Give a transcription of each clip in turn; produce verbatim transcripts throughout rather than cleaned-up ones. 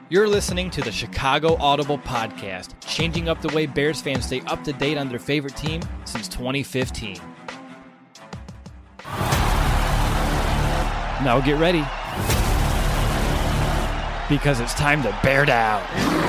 You're listening to the Chicago Audible Podcast, changing up the way Bears fans stay up to date on their favorite team since twenty fifteen. Now get ready, because it's time to bear down.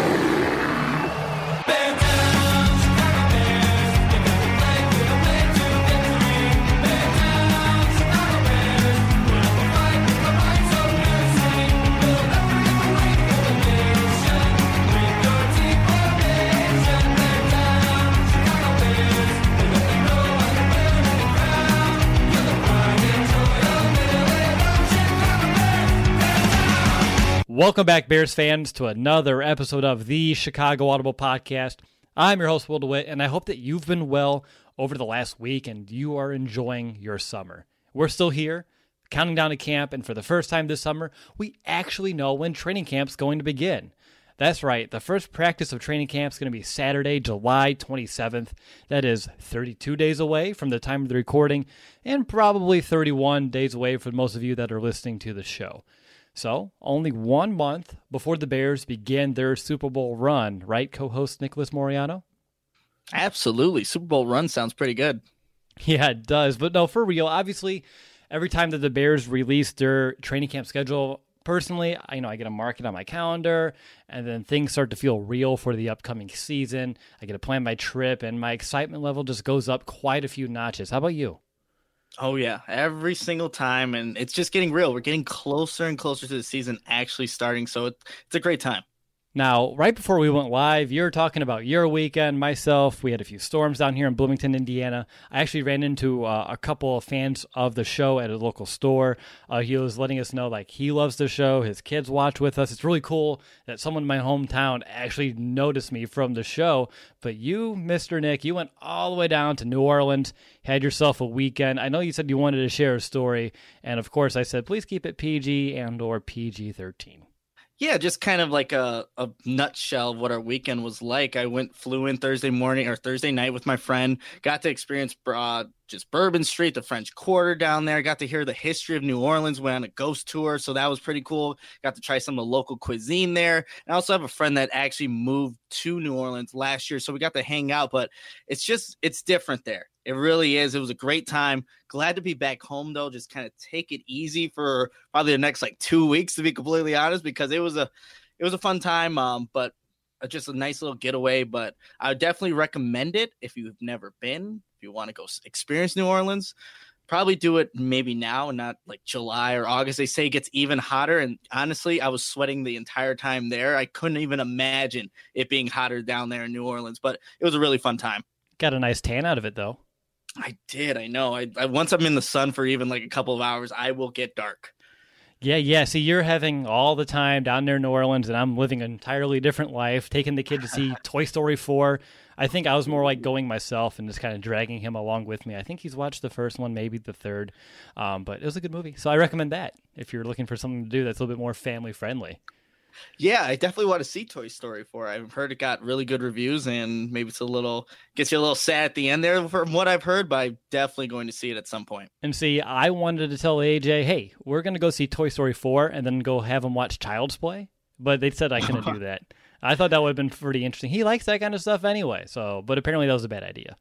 Welcome back, Bears fans, to another episode of the Chicago Audible Podcast. I'm your host, Will DeWitt, and I hope that you've been well over the last week and you are enjoying your summer. We're still here, counting down to camp, and for the first time this summer, we actually know when training camp's going to begin. That's right, the first practice of training camp is going to be Saturday, July twenty-seventh. That is thirty-two days away from the time of the recording, and probably thirty-one days away for most of you that are listening to the show. So, only one month before the Bears begin their Super Bowl run, right, co-host Nicholas Moriano? Absolutely. Super Bowl run sounds pretty good. Yeah, it does. But no, for real, obviously, every time that the Bears release their training camp schedule, personally, I you know I get a mark it on my calendar, and then things start to feel real for the upcoming season. I get to plan my trip, and my excitement level just goes up quite a few notches. How about you? Oh, yeah, every single time, and it's just getting real. We're getting closer and closer to the season actually starting, so it, it's a great time. Now, right before we went live, you were talking about your weekend. Myself, we had a few storms down here in Bloomington, Indiana. I actually ran into uh, a couple of fans of the show at a local store. Uh, he was letting us know, like, he loves the show. His kids watch with us. It's really cool that someone in my hometown actually noticed me from the show. But you, Mister Nick, you went all the way down to New Orleans, had yourself a weekend. I know you said you wanted to share a story. And, of course, I said, please keep it P G and or P G thirteen. Yeah, just kind of like a, a nutshell of what our weekend was like. I went, flew in Thursday morning or Thursday night with my friend, got to experience uh, just Bourbon Street, the French Quarter down there, got to hear the history of New Orleans, went on a ghost tour, so that was pretty cool. Got to try some of the local cuisine there. And I also have a friend that actually moved to New Orleans last year, so we got to hang out, but it's just, it's different there. It really is. It was a great time. Glad to be back home, though. Just kind of take it easy for probably the next like two weeks, to be completely honest, because it was a it was a fun time, um, but just a nice little getaway. But I would definitely recommend it if you've never been. If you want to go experience New Orleans, probably do it maybe now and not like July or August. They say it gets even hotter, and honestly, I was sweating the entire time there. I couldn't even imagine it being hotter down there in New Orleans, but it was a really fun time. Got a nice tan out of it, though. I did. I know. I, I once I'm in the sun for even like a couple of hours, I will get dark. Yeah, yeah. See, you're having all the time down there in New Orleans, and I'm living an entirely different life, taking the kid to see Toy Story four. I think I was more like going myself and just kind of dragging him along with me. I think he's watched the first one, maybe the third, um, but it was a good movie. So I recommend that if you're looking for something to do that's a little bit more family-friendly. Yeah, I definitely want to see Toy Story four. I've heard it got really good reviews, and maybe it's a little gets you a little sad at the end there from what I've heard, but I'm definitely going to see it at some point. And see, I wanted to tell A J, hey, we're going to go see Toy Story four and then go have him watch Child's Play, but they said I couldn't do that. I thought that would have been pretty interesting. He likes that kind of stuff anyway, so but apparently that was a bad idea.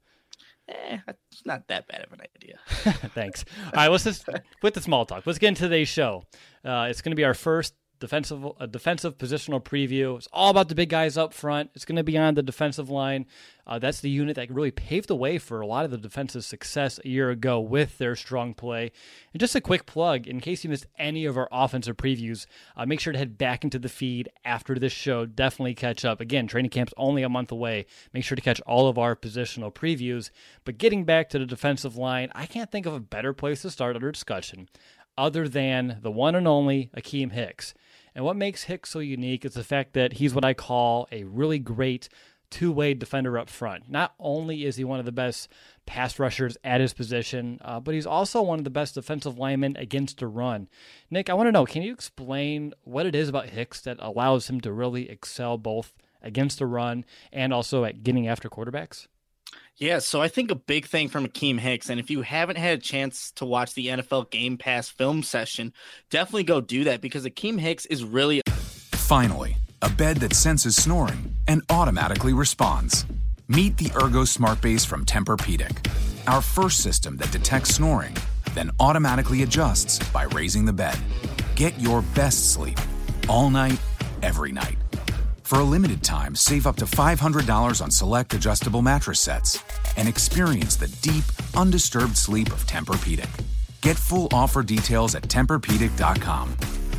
Eh, it's not that bad of an idea. Thanks. All right, let's just, with the small talk, let's get into today's show. Uh, it's going to be our first defensive a defensive positional preview. It's all about the big guys up front. It's going to be on the defensive line. Uh, that's the unit that really paved the way for a lot of the defensive success a year ago with their strong play. And just a quick plug, in case you missed any of our offensive previews, uh, make sure to head back into the feed after this show. Definitely catch up. Again, training camp's only a month away. Make sure to catch all of our positional previews. But getting back to the defensive line, I can't think of a better place to start our discussion other than the one and only Akiem Hicks. And what makes Hicks so unique is the fact that he's what I call a really great two-way defender up front. Not only is he one of the best pass rushers at his position, uh, but he's also one of the best defensive linemen against the run. Nick, I want to know, can you explain what it is about Hicks that allows him to really excel both against the run and also at getting after quarterbacks? Yeah, so I think a big thing from Akiem Hicks, and if you haven't had a chance to watch the N F L Game Pass film session, definitely go do that because Akiem Hicks is really... Finally, a bed that senses snoring and automatically responds. Meet the Ergo Smart Base from Tempur-Pedic, our first system that detects snoring, then automatically adjusts by raising the bed. Get your best sleep all night, every night. For a limited time, save up to five hundred dollars on select adjustable mattress sets and experience the deep, undisturbed sleep of Tempur-Pedic. Get full offer details at Tempur Pedic dot com.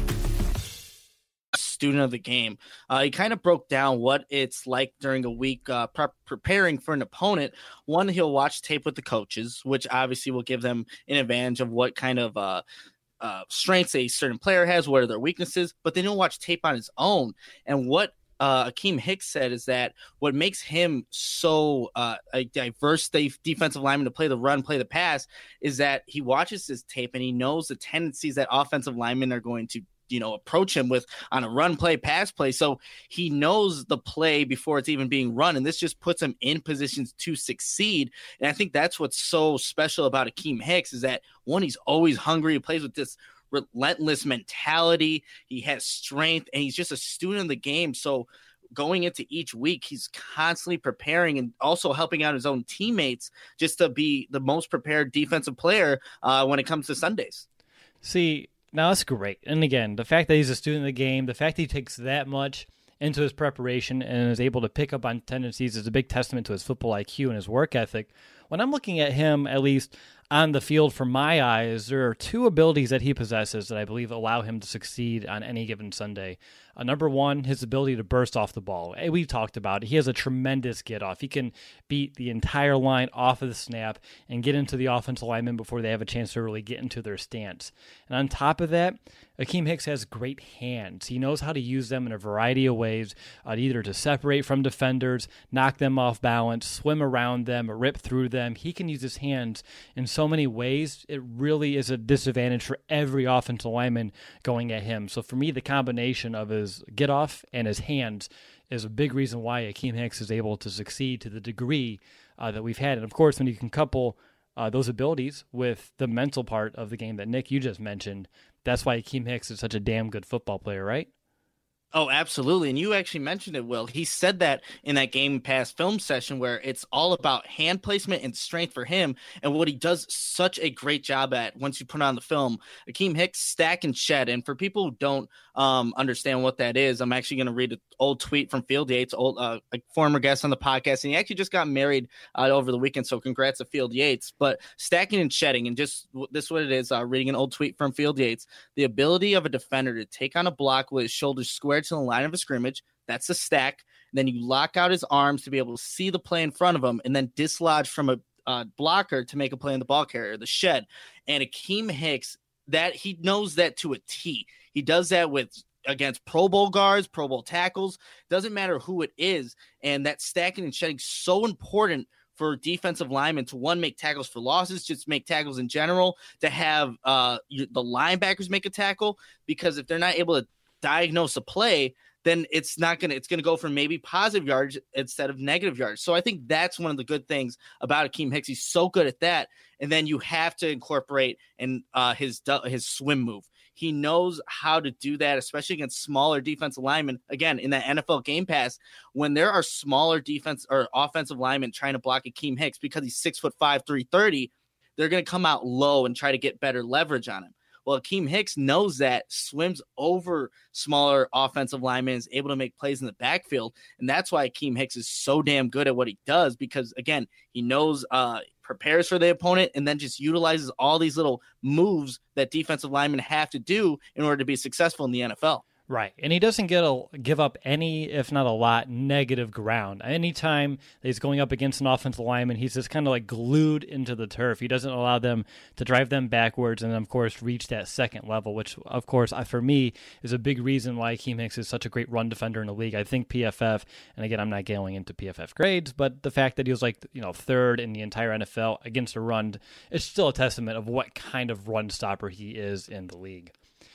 Student of the game. Uh, he kind of broke down what it's like during a week uh, pre- preparing for an opponent. One, he'll watch tape with the coaches, which obviously will give them an advantage of what kind of uh, uh, strengths a certain player has, what are their weaknesses, but then he'll watch tape on his own. And what uh, Akeem Hicks said is that what makes him so uh, a diverse defensive lineman to play the run, play the pass, is that he watches his tape and he knows the tendencies that offensive linemen are going to you know, approach him with on a run play, pass play. So he knows the play before it's even being run. And this just puts him in positions to succeed. And I think that's what's so special about Akeem Hicks is that one, he's always hungry. He plays with this relentless mentality. He has strength and he's just a student of the game. So going into each week, he's constantly preparing and also helping out his own teammates just to be the most prepared defensive player uh, when it comes to Sundays. See, now that's great. And again, the fact that he's a student of the game, the fact that he takes that much into his preparation and is able to pick up on tendencies is a big testament to his football I Q and his work ethic. When I'm looking at him, at least on the field from my eyes, there are two abilities that he possesses that I believe allow him to succeed on any given Sunday. Uh, number one, his ability to burst off the ball. We've talked about it. He has a tremendous get off. He can beat the entire line off of the snap and get into the offensive lineman before they have a chance to really get into their stance. And on top of that, Akeem Hicks has great hands. He knows how to use them in a variety of ways, uh, either to separate from defenders, knock them off balance, swim around them, rip through them. He can use his hands in so many ways. It really is a disadvantage for every offensive lineman going at him. So for me, the combination of his get off and his hands is a big reason why Akeem Hicks is able to succeed to the degree uh, that we've had. And of course, when you can couple uh, those abilities with the mental part of the game that Nick, you just mentioned, that's why Akeem Hicks is such a damn good football player, right? Oh, absolutely. And you actually mentioned it, Will. He said that in that Game Pass film session where it's all about hand placement and strength for him. And what he does such a great job at once you put on the film, Akeem Hicks stack and shed. And for people who don't um, understand what that is, I'm actually going to read an old tweet from Field Yates, old, uh, a former guest on the podcast. And he actually just got married uh, over the weekend. So congrats to Field Yates. But stacking and shedding, and just this is what it is, uh, reading an old tweet from Field Yates, the ability of a defender to take on a block with his shoulders squared to the line of a scrimmage, that's a stack. And then you lock out his arms to be able to see the play in front of him and then dislodge from a uh, blocker to make a play in the ball carrier, the shed. And Akeem Hicks, that he knows that to a T. He does that with against Pro Bowl guards, Pro Bowl tackles, doesn't matter who it is. And that stacking and shedding so important for defensive linemen to, one, make tackles for losses, just make tackles in general, to have uh, the linebackers make a tackle, because if they're not able to diagnose a play, then it's not going to, it's going to go for maybe positive yards instead of negative yards. So I think that's one of the good things about Akeem Hicks. He's so good at that. And then you have to incorporate in uh, his, his swim move. He knows how to do that, especially against smaller defensive linemen. Again, in that N F L Game Pass, when there are smaller defense or offensive linemen trying to block Akeem Hicks because he's six foot five, three thirty, they're going to come out low and try to get better leverage on him. Well, Akeem Hicks knows that, swims over smaller offensive linemen, is able to make plays in the backfield. And that's why Akeem Hicks is so damn good at what he does, because, again, he knows, uh, prepares for the opponent, and then just utilizes all these little moves that defensive linemen have to do in order to be successful in the N F L. Right, and he doesn't get a, give up any, if not a lot, negative ground. Anytime that he's going up against an offensive lineman, he's just kind of like glued into the turf. He doesn't allow them to drive them backwards and, of course, reach that second level, which, of course, for me, is a big reason why Akeem Hicks is such a great run defender in the league. I think P F F, and again, I'm not going into P F F grades, but the fact that he was like, you know, third in the entire N F L against a run, it's still a testament of what kind of run stopper he is in the league.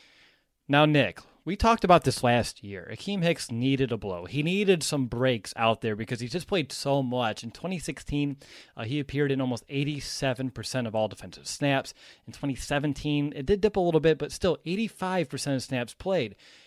Now, Nick, we talked about this last year. Akeem Hicks needed a blow. He needed some breaks out there because he just played so much. In twenty sixteen, uh, he appeared in almost eighty-seven percent of all defensive snaps. In twenty seventeen, it did dip a little bit, but still eighty-five percent of snaps played.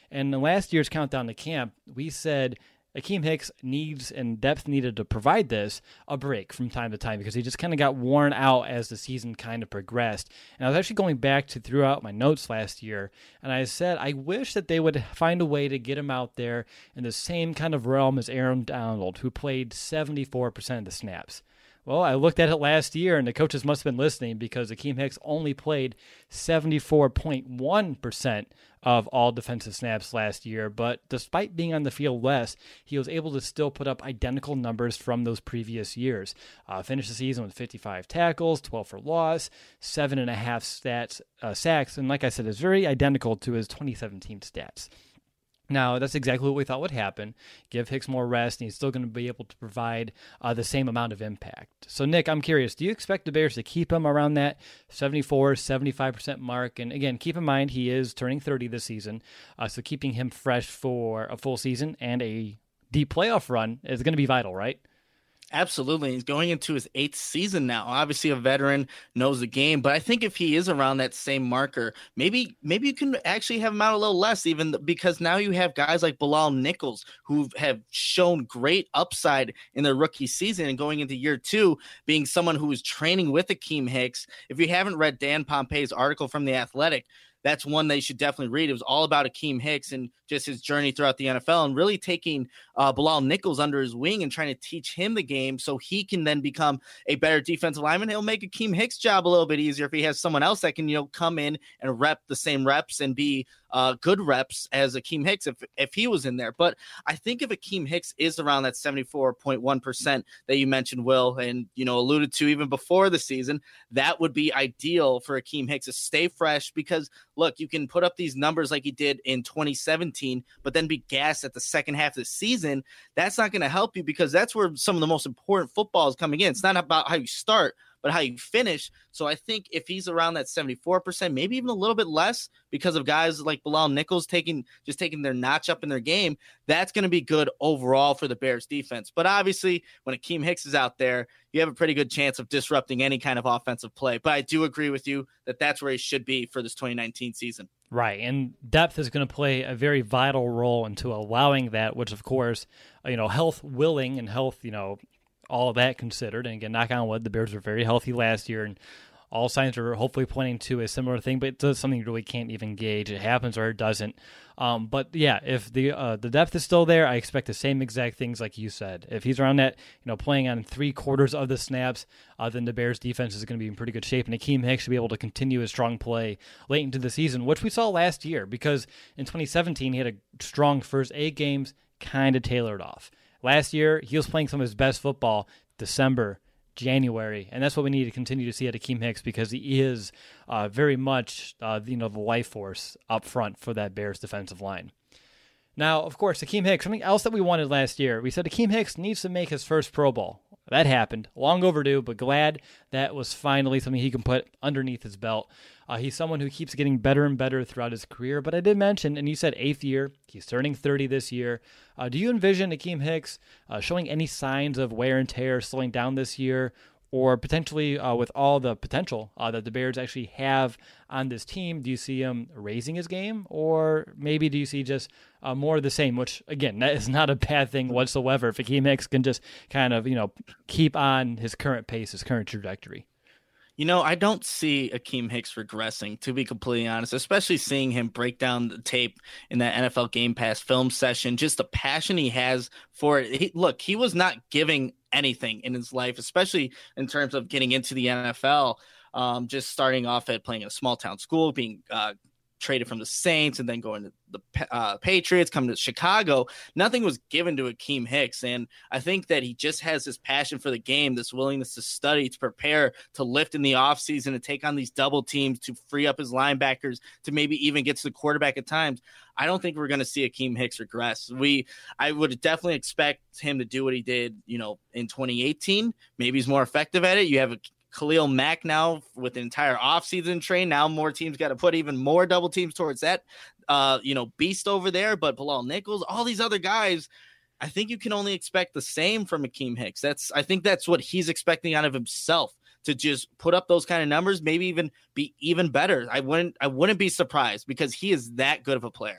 And in last year's countdown to camp, we said Akeem Hicks needs and depth needed to provide this a break from time to time because he just kind of got worn out as the season kind of progressed. And I was actually going back to throughout my notes last year, and I said I wish that they would find a way to get him out there in the same kind of realm as Aaron Donald, who played seventy-four percent of the snaps. Well, I looked at it last year, and the coaches must have been listening because Akeem Hicks only played seventy-four point one percent of all defensive snaps last year. But despite being on the field less, he was able to still put up identical numbers from those previous years. Uh, finished the season with fifty-five tackles, twelve for loss, seven and a half stats, uh, sacks, and like I said, it's very identical to his twenty seventeen stats. Now, that's exactly what we thought would happen. Give Hicks more rest, and he's still going to be able to provide uh, the same amount of impact. So, Nick, I'm curious, do you expect the Bears to keep him around that seventy-four, seventy-five percent mark? And again, keep in mind, he is turning thirty this season, uh, so keeping him fresh for a full season and a deep playoff run is going to be vital, right? Absolutely. He's going into his eighth season now. Obviously, a veteran, knows the game. But I think if he is around that same marker, maybe maybe you can actually have him out a little less, even because now you have guys like Bilal Nichols who have shown great upside in their rookie season and going into year two, being someone who is training with Akeem Hicks. If you haven't read Dan Pompei's article from The Athletic, that's one they should definitely read. It was all about Akeem Hicks and just his journey throughout the N F L and really taking uh, Bilal Nichols under his wing and trying to teach him the game so he can then become a better defensive lineman. He'll make Akeem Hicks' job a little bit easier if he has someone else that can, you know, come in and rep the same reps and be uh, good reps as Akeem Hicks if, if he was in there. But I think if Akeem Hicks is around that seventy-four point one percent that you mentioned, Will, and, you know, alluded to even before the season, that would be ideal for Akeem Hicks to stay fresh because, look, you can put up these numbers like he did in twenty seventeen, but then be gassed at the second half of the season. That's not going to help you because that's where some of the most important football is coming in. It's not about how you start, but how you finish. So I think if he's around that seventy-four percent, maybe even a little bit less because of guys like Bilal Nichols taking just taking their notch up in their game, that's going to be good overall for the Bears defense. But obviously, when Akeem Hicks is out there, you have a pretty good chance of disrupting any kind of offensive play. But I do agree with you that that's where he should be for this twenty nineteen season. Right, and depth is going to play a very vital role into allowing that, which, of course, you know, health willing and health, you know, all of that considered. And again, knock on wood, the Bears were very healthy last year, and all signs are hopefully pointing to a similar thing, but it's something you really can't even gauge. It happens or it doesn't. Um, but yeah, if the uh, the depth is still there, I expect the same exact things like you said. If he's around that, you know, playing on three quarters of the snaps, uh, then the Bears defense is going to be in pretty good shape, and Akeem Hicks should be able to continue his strong play late into the season, which we saw last year because in twenty seventeen he had a strong first eight games, kind of tailored off. Last year he was playing some of his best football December, January, and that's what we need to continue to see at Akeem Hicks because he is uh, very much uh, you know the life force up front for that Bears defensive line. Now, of course, Akeem Hicks, something else that we wanted last year, we said Akeem Hicks needs to make his first Pro Bowl. That happened, long overdue, but glad that was finally something he can put underneath his belt. Uh, he's someone who keeps getting better and better throughout his career, but I did mention, and you said eighth year, he's turning thirty this year. Uh, do you envision Akeem Hicks uh, showing any signs of wear and tear slowing down this year, or potentially uh, with all the potential uh, that the Bears actually have on this team, do you see him raising his game, or maybe do you see just uh, more of the same, which, again, that is not a bad thing whatsoever if Akeem Hicks can just kind of, you know, keep on his current pace, his current trajectory? You know, I don't see Akeem Hicks regressing, to be completely honest, especially seeing him break down the tape in that N F L Game Pass film session, just the passion he has for it. He, look, he was not giving anything in his life, especially in terms of getting into the N F L, um, just starting off at playing in a small town school, being uh, traded from the Saints and then going to the uh, Patriots, coming to Chicago. Nothing was given to Akeem Hicks. And I think that he just has this passion for the game, this willingness to study, to prepare, to lift in the offseason, to take on these double teams, to free up his linebackers, to maybe even get to the quarterback at times. I don't think we're going to see Akeem Hicks regress. We, I would definitely expect him to do what he did, you know, in twenty eighteen. Maybe he's more effective at it. You have a Khalil Mack now with an entire offseason train. Now more teams got to put even more double teams towards that, uh, you know, beast over there. But Bilal Nichols, all these other guys, I think you can only expect the same from Akeem Hicks. That's, I think that's what he's expecting out of himself, to just put up those kind of numbers, maybe even be even better. I wouldn't, I wouldn't be surprised because he is that good of a player.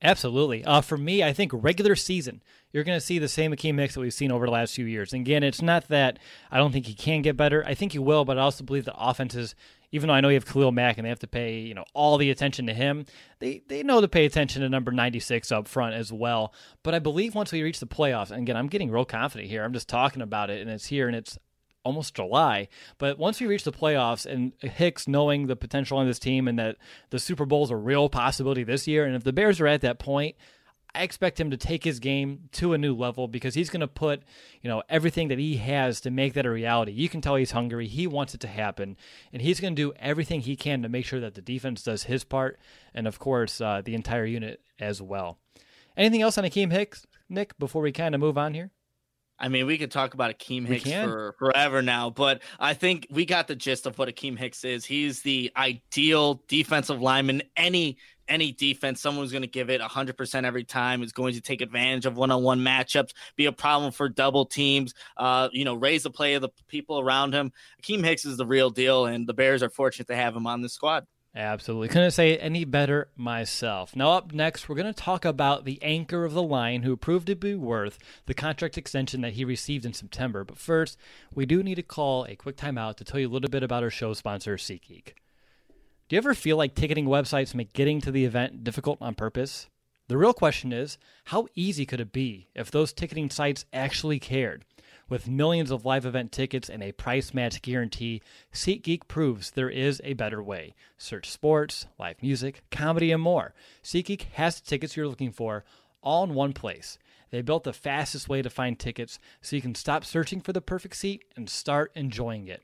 Absolutely. Uh, for me, I think regular season, you're going to see the same Akeem Hicks that we've seen over the last few years. And again, it's not that I don't think he can get better. I think he will, but I also believe the offenses, even though I know you have Khalil Mack and they have to pay, you know, all the attention to him, they they know to pay attention to number ninety-six up front as well. But I believe once we reach the playoffs, and again, I'm getting real confident here. I'm just talking about it, and it's here, and it's almost July. But once we reach the playoffs and Hicks knowing the potential on this team and that the Super Bowl is a real possibility this year, and if the Bears are at that point, I expect him to take his game to a new level because he's going to put, you know, everything that he has to make that a reality. You can tell he's hungry. He wants it to happen, and he's going to do everything he can to make sure that the defense does his part, and of course, uh, the entire unit as well. Anything else on Akeem Hicks, Nick, before we kind of move on here? I mean, we could talk about Akeem Hicks for forever now, but I think we got the gist of what Akeem Hicks is. He's the ideal defensive lineman. Any any defense, someone's going to give it one hundred percent every time, is going to take advantage of one-on-one matchups, be a problem for double teams, uh, you know, raise the play of the people around him. Akeem Hicks is the real deal, and the Bears are fortunate to have him on the squad. Absolutely. Couldn't say it any better myself. Now up next, we're going to talk about the anchor of the line who proved to be worth the contract extension that he received in September. But first, we do need to call a quick timeout to tell you a little bit about our show sponsor, SeatGeek. Do you ever feel like ticketing websites make getting to the event difficult on purpose? The real question is, how easy could it be if those ticketing sites actually cared? With millions of live event tickets and a price match guarantee, SeatGeek proves there is a better way. Search sports, live music, comedy, and more. SeatGeek has the tickets you're looking for all in one place. They built the fastest way to find tickets so you can stop searching for the perfect seat and start enjoying it.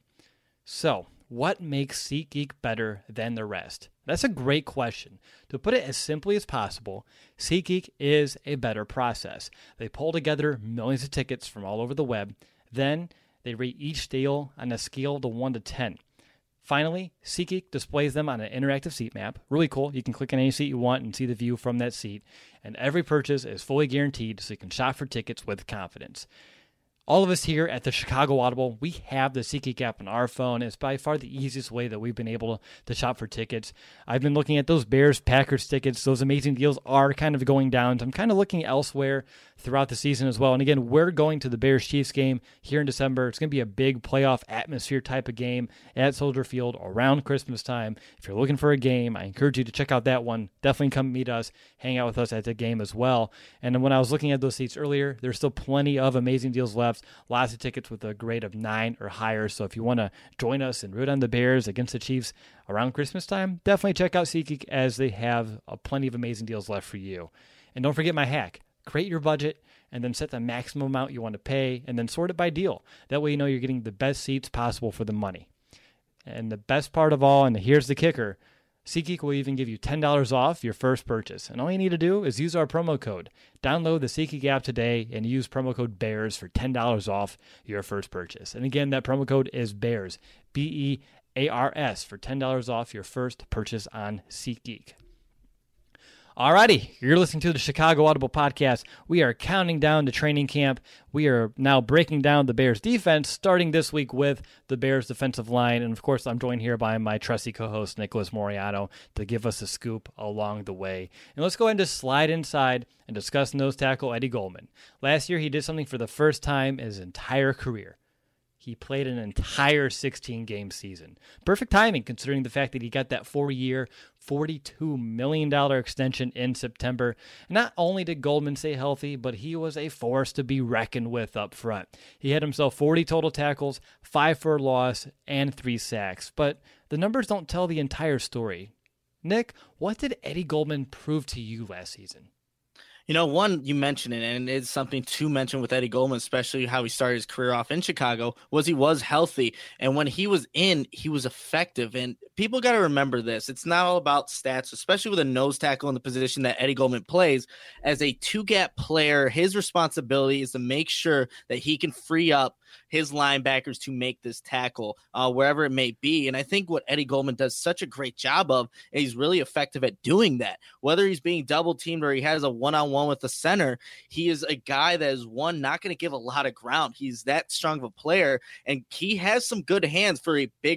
So, what makes SeatGeek better than the rest? That's a great question. To put it as simply as possible, SeatGeek is a better process. They pull together millions of tickets from all over the web. Then they rate each deal on a scale of one to ten. Finally, SeatGeek displays them on an interactive seat map. Really cool. You can click on any seat you want and see the view from that seat. And every purchase is fully guaranteed so you can shop for tickets with confidence. All of us here at the Chicago Audible, we have the SeatGeek app on our phone. It's by far the easiest way that we've been able to shop for tickets. I've been looking at those Bears-Packers tickets. Those amazing deals are kind of going down. So I'm kind of looking elsewhere throughout the season as well. And again, we're going to the Bears-Chiefs game here in December. It's going to be a big playoff atmosphere type of game at Soldier Field around Christmas time. If you're looking for a game, I encourage you to check out that one. Definitely come meet us, hang out with us at the game as well. And then when I was looking at those seats earlier, there's still plenty of amazing deals left. Lots of tickets with a grade of nine or higher. So if you want to join us and root on the Bears against the Chiefs around Christmas time, definitely check out SeatGeek as they have uh, plenty of amazing deals left for you. And don't forget my hack. Create your budget and then set the maximum amount you want to pay and then sort it by deal. That way you know you're getting the best seats possible for the money. And the best part of all, and here's the kicker, SeatGeek will even give you ten dollars off your first purchase. And all you need to do is use our promo code. Download the SeatGeek app today and use promo code BEARS for ten dollars off your first purchase. And again, that promo code is BEARS, B E A R S, for ten dollars off your first purchase on SeatGeek. Alrighty, you're listening to the Chicago Audible Podcast. We are counting down to training camp. We are now breaking down the Bears defense, starting this week with the Bears defensive line. And of course, I'm joined here by my trusty co-host, Nicholas Moriano, to give us a scoop along the way. And let's go ahead and just slide inside and discuss nose tackle Eddie Goldman. Last year, he did something for the first time in his entire career. He played an entire sixteen-game season. Perfect timing, considering the fact that he got that four-year, forty-two million dollars extension in September. Not only did Goldman stay healthy, but he was a force to be reckoned with up front. He had himself forty total tackles, five for a loss, and three sacks. But the numbers don't tell the entire story. Nick, what did Eddie Goldman prove to you last season? You know, one, you mentioned it, and it's something to mention with Eddie Goldman, especially how he started his career off in Chicago, was he was healthy. And when he was in, he was effective. And people got to remember this. It's not all about stats, especially with a nose tackle in the position that Eddie Goldman plays. As a two-gap player, his responsibility is to make sure that he can free up his linebackers to make this tackle uh, wherever it may be. And I think what Eddie Goldman does such a great job of, and he's really effective at doing that. Whether he's being double teamed or he has a one-on-one with the center, he is a guy that is, one, not going to give a lot of ground. He's that strong of a player, and he has some good hands for a bigger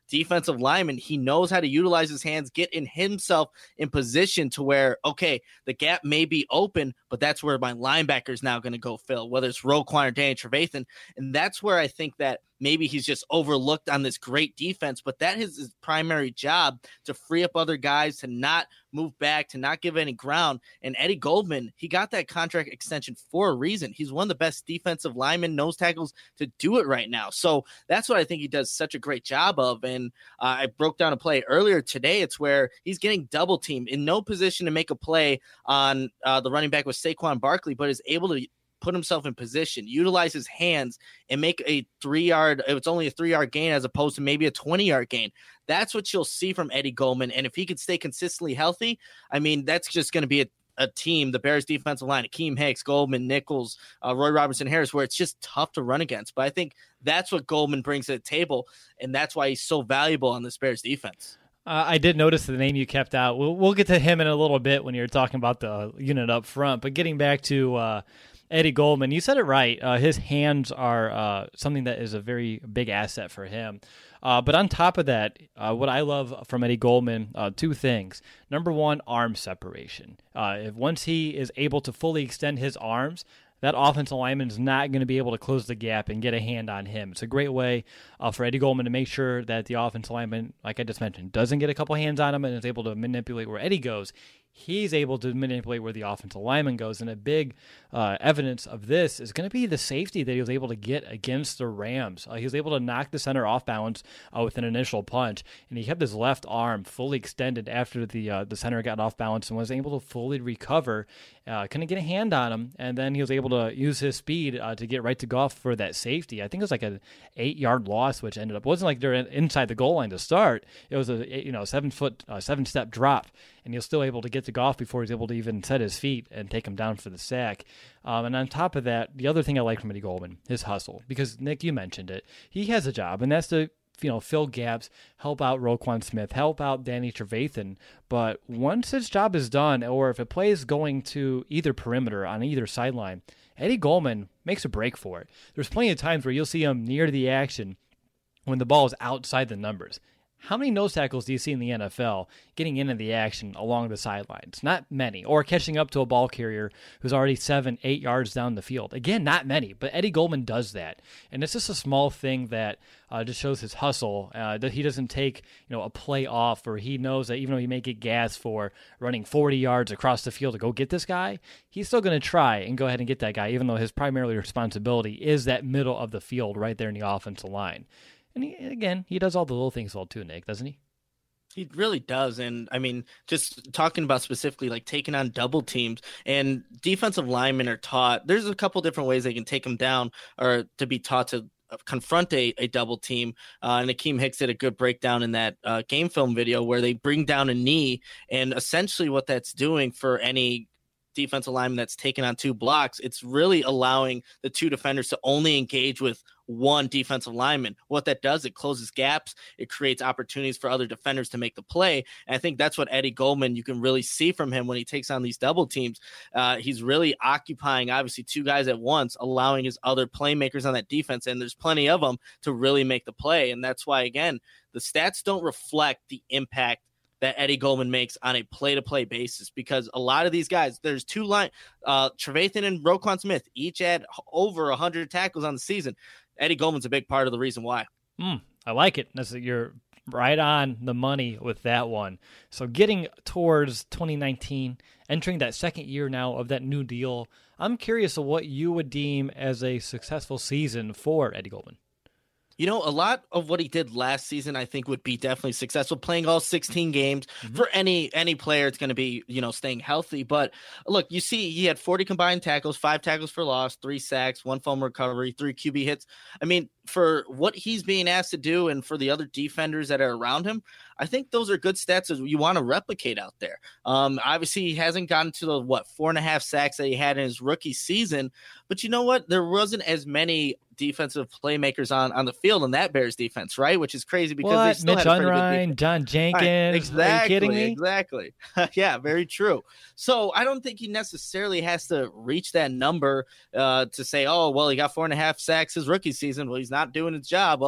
defensive lineman. He knows how to utilize his hands, get in himself in position to where, okay, the gap may be open, but that's where my linebacker is now going to go fill, whether it's Roquan or Danny Trevathan. And that's where I think that maybe he's just overlooked on this great defense, but that is his primary job, to free up other guys, to not move back, to not give any ground. And Eddie Goldman, he got that contract extension for a reason. He's one of the best defensive linemen, nose tackles to do it right now. So that's what I think he does such a great job of. And uh, I broke down a play earlier today. It's where he's getting double teamed in no position to make a play on uh, the running back with Saquon Barkley, but is able to put himself in position, utilize his hands, and make a three-yard, it's only a three-yard gain as opposed to maybe a twenty-yard gain. That's what you'll see from Eddie Goldman. And if he could stay consistently healthy, I mean, that's just going to be a, a team, the Bears defensive line, Akeem Hicks, Goldman, Nichols, uh, Roy Robertson Harris, where it's just tough to run against. But I think that's what Goldman brings to the table, and that's why he's so valuable on this Bears defense. Uh, I did notice the name you kept out. We'll, we'll get to him in a little bit when you're talking about the unit up front. But getting back to uh, Eddie Goldman, you said it right. Uh, his hands are uh, something that is a very big asset for him. Uh, but on top of that, uh, what I love from Eddie Goldman, uh, two things. Number one, arm separation. Uh, if once he is able to fully extend his arms, that offensive lineman is not going to be able to close the gap and get a hand on him. It's a great way uh, for Eddie Goldman to make sure that the offensive lineman, like I just mentioned, doesn't get a couple hands on him and is able to manipulate where Eddie goes. He's able to manipulate where the offensive lineman goes. And a big uh, evidence of this is going to be the safety that he was able to get against the Rams. Uh, he was able to knock the center off balance uh, with an initial punch, and he kept his left arm fully extended after the uh, the center got off balance and was able to fully recover, uh, couldn't get a hand on him, and then he was able to use his speed uh, to get right to golf for that safety. I think it was like an eight-yard loss, which ended up, it wasn't like they're inside the goal line to start. It was a you know seven-foot, uh, seven-step drop, and he was still able to get to golf before he was able to even set his feet and take him down for the sack. Um, and on top of that, the other thing I like from Eddie Goldman, his hustle. Because, Nick, you mentioned it. He has a job, and that's to you know fill gaps, help out Roquan Smith, help out Danny Trevathan. But once his job is done, or if a play is going to either perimeter on either sideline, Eddie Goldman makes a break for it. There's plenty of times where you'll see him near the action when the ball is outside the numbers. How many nose tackles do you see in the N F L getting into the action along the sidelines? Not many. Or catching up to a ball carrier who's already seven, eight yards down the field. Again, not many, but Eddie Goldman does that. And it's just a small thing that uh, just shows his hustle, uh, that he doesn't take you know a play off, or he knows that even though he may get gas for running forty yards across the field to go get this guy, he's still going to try and go ahead and get that guy, even though his primary responsibility is that middle of the field right there in the offensive line. And he, again, he does all the little things well too, Nick, doesn't he? He really does. And I mean, just talking about specifically like taking on double teams, and defensive linemen are taught, there's a couple different ways they can take them down, or to be taught to confront a, a double team. Uh, and Akeem Hicks did a good breakdown in that uh, game film video where they bring down a knee. And essentially what that's doing for any defensive lineman that's taken on two blocks, it's really allowing the two defenders to only engage with one defensive lineman. What that does, it closes gaps, it creates opportunities for other defenders to make the play. And I think that's what Eddie Goldman, you can really see from him when he takes on these double teams. Uh, he's really occupying, obviously, two guys at once, allowing his other playmakers on that defense, and there's plenty of them, to really make the play. And that's why, again, the stats don't reflect the impact that Eddie Goldman makes on a play-to-play basis, because a lot of these guys, there's two line, uh, Trevathan and Roquan Smith, each had over one hundred tackles on the season. Eddie Goldman's a big part of the reason why. Mm, I like it. That's, you're right on the money with that one. So getting towards twenty nineteen, entering that second year now of that new deal, I'm curious of what you would deem as a successful season for Eddie Goldman. You know, a lot of what he did last season, I think, would be definitely successful. Playing all sixteen games mm-hmm. for any any player, it's going to be, you know, staying healthy. But look, you see, he had forty combined tackles, five tackles for loss, three sacks, one fumble recovery, three Q B hits. I mean, for what he's being asked to do, and for the other defenders that are around him, I think those are good stats that you want to replicate out there. Um, obviously, he hasn't gotten to the, what, four and a half sacks that he had in his rookie season. But you know what? There wasn't as many defensive playmakers on, on the field in that Bears defense, right? Which is crazy because what? they still Mitch had a pretty Unrein, good defense. John Jenkins. Right. Exactly. Are you kidding me? Exactly. Yeah, very true. So I don't think he necessarily has to reach that number uh, to say, oh, well, he got four and a half sacks his rookie season. Well, he's not doing his job. Well,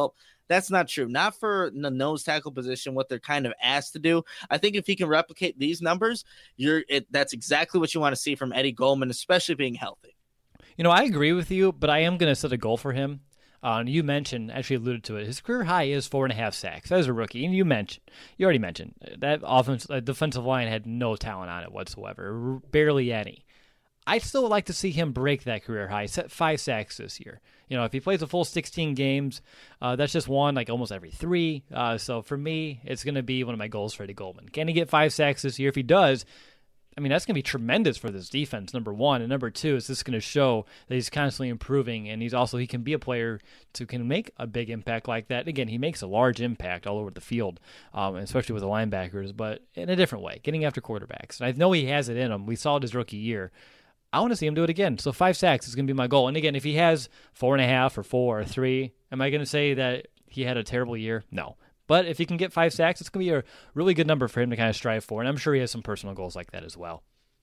That's not true. Not for the nose tackle position, what they're kind of asked to do. I think if he can replicate these numbers, you're it, that's exactly what you want to see from Eddie Goldman, especially being healthy. You know, I agree with you, but I am going to set a goal for him. Uh, and you mentioned, actually alluded to it, his career high is four and a half sacks as a rookie. And you mentioned, you already mentioned, that offense, uh, defensive line had no talent on it whatsoever, barely any. I'd still like to see him break that career high, set five sacks this year. You know, if he plays a full sixteen games, uh, that's just one like almost every three. Uh, so for me, it's going to be one of my goals for Eddie Goldman. Can he get five sacks this year? If he does, I mean, that's going to be tremendous for this defense, number one. And number two, is this going to show that he's constantly improving, and he's also, he can be a player to can make a big impact like that. Again, he makes a large impact all over the field, um, especially with the linebackers, but in a different way, getting after quarterbacks. And I know he has it in him. We saw it his rookie year. I want to see him do it again. So five sacks is going to be my goal. And again, if he has four and a half or four or three, am I going to say that he had a terrible year? No. But if he can get five sacks, it's going to be a really good number for him to kind of strive for. And I'm sure he has some personal goals like that as well.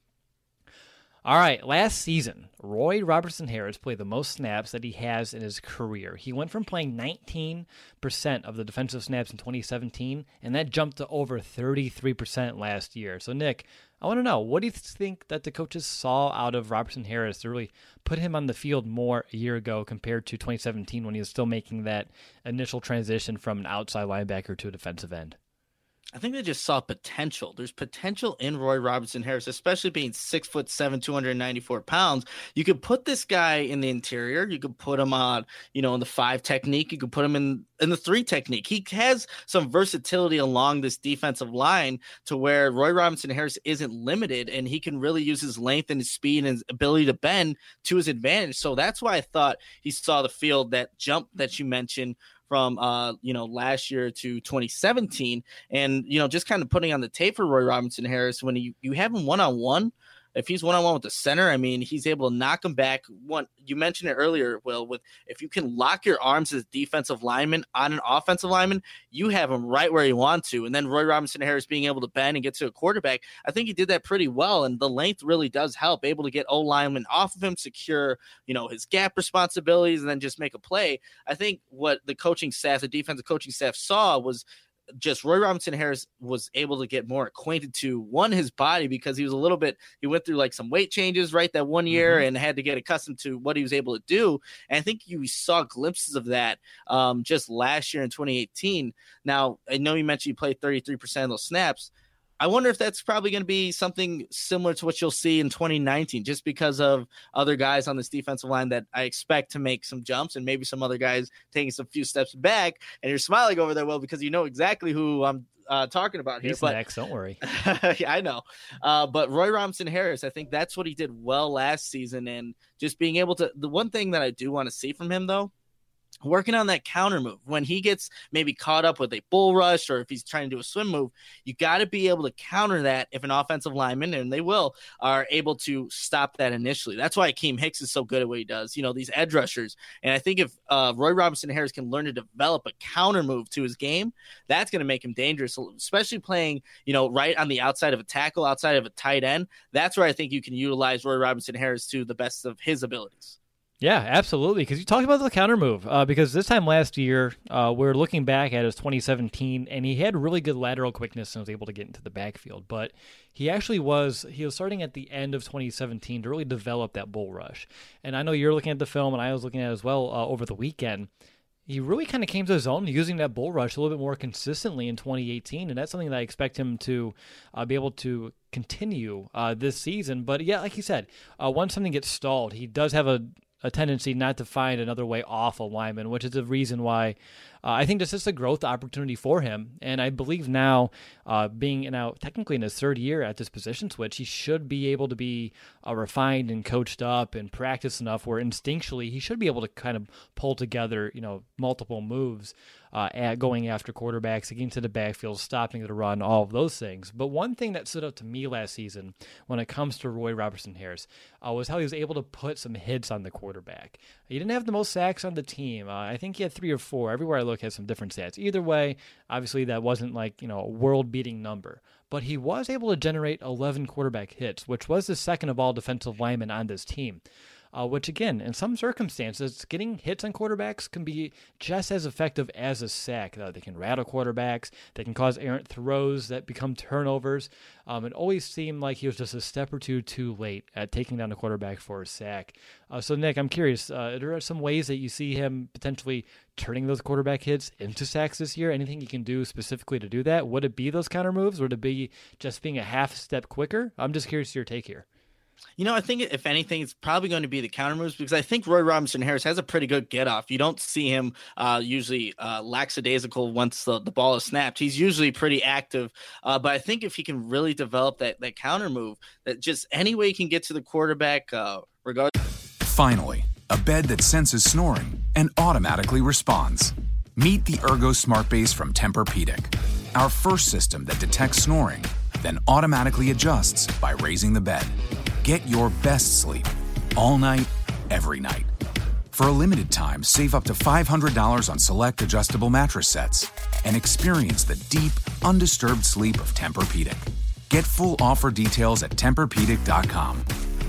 All right, last season, Roy Robertson Harris played the most snaps that he has in his career. He went from playing nineteen percent of the defensive snaps in twenty seventeen, and that jumped to over thirty-three percent last year. So, Nick, I want to know, what do you think that the coaches saw out of Robertson Harris to really put him on the field more a year ago compared to twenty seventeen when he was still making that initial transition from an outside linebacker to a defensive end? I think they just saw potential. There's potential in Roy Robertson Harris, especially being six foot seven, two hundred ninety-four pounds. You could put this guy in the interior. You could put him on, you know, in the five technique. You could put him in, in the three technique. He has some versatility along this defensive line to where Roy Robertson Harris isn't limited, and he can really use his length and his speed and his ability to bend to his advantage. So that's why I thought he saw the field, that jump that you mentioned from, uh, you know, last year to twenty seventeen. And, you know, just kind of putting on the tape for Roy Robertson Harris, when you, you have him one-on-one, if he's one-on-one with the center, I mean, he's able to knock him back. One, you mentioned it earlier, Will, with if you can lock your arms as a defensive lineman on an offensive lineman, you have him right where you want to. And then Roy Robertson Harris being able to bend and get to a quarterback, I think he did that pretty well. And the length really does help, able to get O linemen off of him, secure, you know, his gap responsibilities, and then just make a play. I think what the coaching staff, the defensive coaching staff saw was just Roy Robertson Harris was able to get more acquainted to, one, his body, because he was a little bit, he went through like some weight changes right that one year mm-hmm. and had to get accustomed to what he was able to do. And I think you saw glimpses of that um, just last year in twenty eighteen. Now, I know you mentioned you played thirty-three percent of those snaps. I wonder if that's probably going to be something similar to what you'll see in twenty nineteen, just because of other guys on this defensive line that I expect to make some jumps, and maybe some other guys taking some few steps back. And you're smiling over there, Will, because you know exactly who I'm uh, talking about here. He's but next, don't worry. Yeah, I know. Uh, but Roy Robertson Harris, I think that's what he did well last season. And just being able to, the one thing that I do want to see from him, though, working on that counter move when he gets maybe caught up with a bull rush, or if he's trying to do a swim move, you got to be able to counter that if an offensive lineman, and they will, are able to stop that initially. That's why Akeem Hicks is so good at what he does, you know, these edge rushers. And I think if uh, Roy Robertson Harris can learn to develop a counter move to his game, that's going to make him dangerous, especially playing, you know, right on the outside of a tackle, outside of a tight end. That's where I think you can utilize Roy Robertson Harris to the best of his abilities. Yeah, absolutely. Because you talked about the counter move. Uh, because this time last year, uh, we're looking back at his twenty seventeen, and he had really good lateral quickness and was able to get into the backfield. But he actually was he was starting at the end of twenty seventeen to really develop that bull rush. And I know you're looking at the film, and I was looking at it as well uh, over the weekend. He really kind of came to his own using that bull rush a little bit more consistently in twenty eighteen, and that's something that I expect him to uh, be able to continue uh, this season. But yeah, like you said, uh, once something gets stalled, he does have a a tendency not to find another way off a lineman, which is the reason why uh, I think this is a growth opportunity for him. And I believe now, uh, being now technically in his third year at this position switch, he should be able to be uh, refined and coached up and practice enough where instinctually he should be able to kind of pull together, you know, multiple moves uh, at going after quarterbacks, getting to the backfield, stopping the run, all of those things. But one thing that stood out to me last season when it comes to Roy Robertson Harris uh, was how he was able to put some hits on the quarterback. He didn't have the most sacks on the team. Uh, I think he had three or four. Everywhere I look has some different stats. Either way, obviously that wasn't like, you know, a world-beating number. But he was able to generate eleven quarterback hits, which was the second of all defensive linemen on this team. uh, which again, in some circumstances, getting hits on quarterbacks can be just as effective as a sack. Uh, they can rattle quarterbacks. They can cause errant throws that become turnovers. Um, it always seemed like he was just a step or two too late at taking down the quarterback for a sack. Uh, so, Nick, I'm curious, uh, there are some ways that you see him potentially turning those quarterback hits into sacks this year. Anything he can do specifically to do that? Would it be those counter moves? Would it be just being a half step quicker? I'm just curious to your take here. You know, I think if anything, it's probably going to be the counter moves because I think Roy Robinson Harris has a pretty good get off. You don't see him uh, usually uh, lackadaisical once the, the ball is snapped. He's usually pretty active. Uh, but I think if he can really develop that, that counter move, that just any way he can get to the quarterback, uh, regardless. Finally, a bed that senses snoring and automatically responds. Meet the Ergo Smart Base from Tempur-Pedic, our first system that detects snoring, then automatically adjusts by raising the bed. Get your best sleep all night, every night. For a limited time, save up to five hundred dollars on select adjustable mattress sets and experience the deep, undisturbed sleep of Tempur-Pedic. Get full offer details at Tempur Pedic dot com.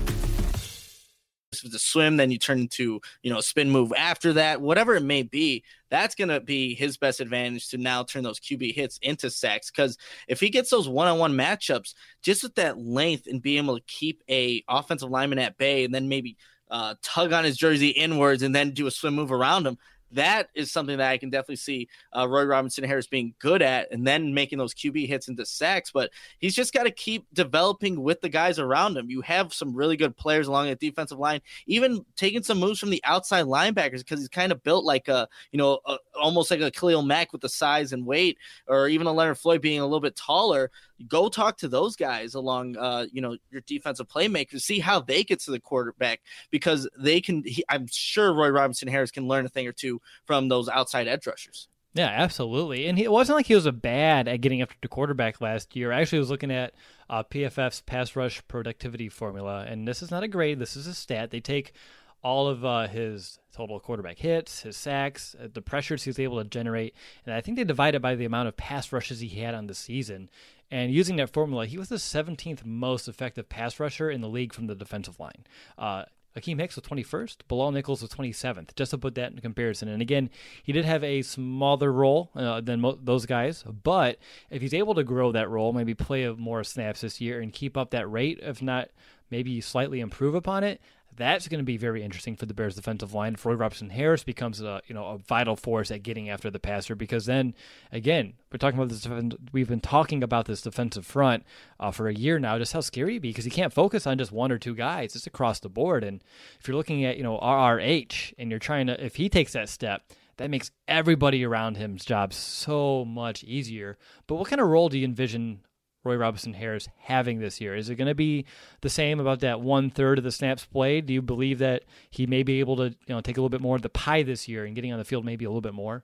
If it's a swim, then you turn into, you know, a spin move after that, whatever it may be, that's going to be his best advantage to now turn those Q B hits into sacks. Because if he gets those one-on-one matchups, just with that length and being able to keep a offensive lineman at bay and then maybe uh, tug on his jersey inwards and then do a swim move around him, that is something that I can definitely see uh, Roy Robinson Harris being good at and then making those Q B hits into sacks. But he's just got to keep developing with the guys around him. You have some really good players along the defensive line, even taking some moves from the outside linebackers because he's kind of built like a, you know, a, almost like a Khalil Mack with the size and weight, or even a Leonard Floyd being a little bit taller. Go talk to those guys along, uh, you know, your defensive playmakers, see how they get to the quarterback because they can, he, I'm sure Roy Robinson Harris can learn a thing or two from those outside edge rushers. Yeah, absolutely. And he, it wasn't like he was a bad at getting after the quarterback last year. I actually was looking at uh, P F F's pass rush productivity formula, and this is not a grade. This is a stat. They take all of uh, his total quarterback hits, his sacks, uh, the pressures he was able to generate, and I think they divide it by the amount of pass rushes he had on the season. And using that formula, he was the seventeenth most effective pass rusher in the league from the defensive line. Uh, Akeem Hicks was twenty-first, Bilal Nichols was twenty-seventh, just to put that in comparison. And again, he did have a smaller role uh, than mo- those guys, but if he's able to grow that role, maybe play more snaps this year and keep up that rate, if not maybe slightly improve upon it, that's going to be very interesting for the Bears defensive line. Roy Robinson Harris becomes a you know a vital force at getting after the passer because then again we're talking about this. We've been talking about this defensive front uh, for a year now, just how scary it be because he can't focus on just one or two guys. It's across the board, and if you're looking at you know R R H and you're trying to if he takes that step, that makes everybody around him's job so much easier. But what kind of role do you envision Roy Robinson Harris having this year? Is it going to be the same about that one third of the snaps played? Do you believe that he may be able to, you know, take a little bit more of the pie this year and getting on the field maybe a little bit more?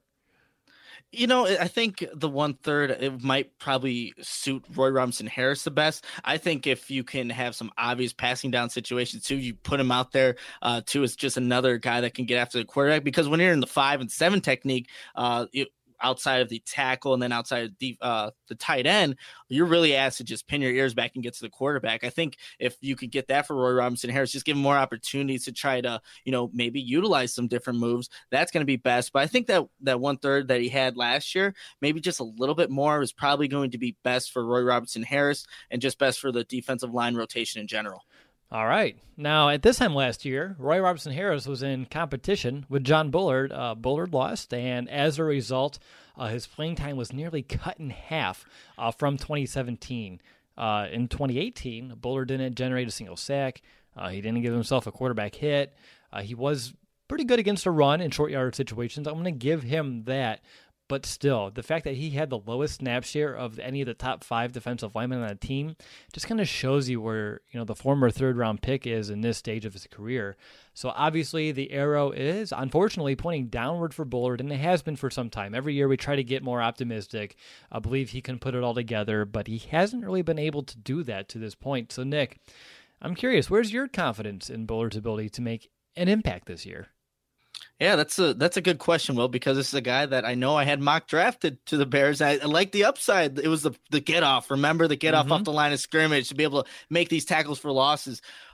You know, I think the one third, it might probably suit Roy Robinson Harris the best. I think if you can have some obvious passing down situations too, you put him out there uh, too as just another guy that can get after the quarterback because when you're in the five and seven technique, uh, it, outside of the tackle and then outside of the, uh, the tight end, you're really asked to just pin your ears back and get to the quarterback. I think if you could get that for Roy Robinson Harris, just give him more opportunities to try to, you know, maybe utilize some different moves. That's going to be best. But I think that that one third that he had last year, maybe just a little bit more is probably going to be best for Roy Robinson Harris and just best for the defensive line rotation in general. All right. Now, at this time last year, Roy Robinson Harris was in competition with John Bullard. Uh, Bullard lost, and as a result, uh, his playing time was nearly cut in half uh, from twenty seventeen. Uh, in twenty eighteen, Bullard didn't generate a single sack. Uh, he didn't give himself a quarterback hit. Uh, he was pretty good against a run in short yard situations. I'm going to give him that. But still, the fact that he had the lowest snap share of any of the top five defensive linemen on the team just kind of shows you where, you know, the former third round pick is in this stage of his career. So obviously the arrow is unfortunately pointing downward for Bullard, and it has been for some time. Every year we try to get more optimistic. I believe he can put it all together, but he hasn't really been able to do that to this point. So Nick, I'm curious, where's your confidence in Bullard's ability to make an impact this year? Yeah, that's a that's a good question, Will, because this is a guy that I know I had mock drafted to the Bears. I, I like the upside. It was the the get off. Remember the get off mm-hmm. off the line of scrimmage to be able to make these tackles for losses.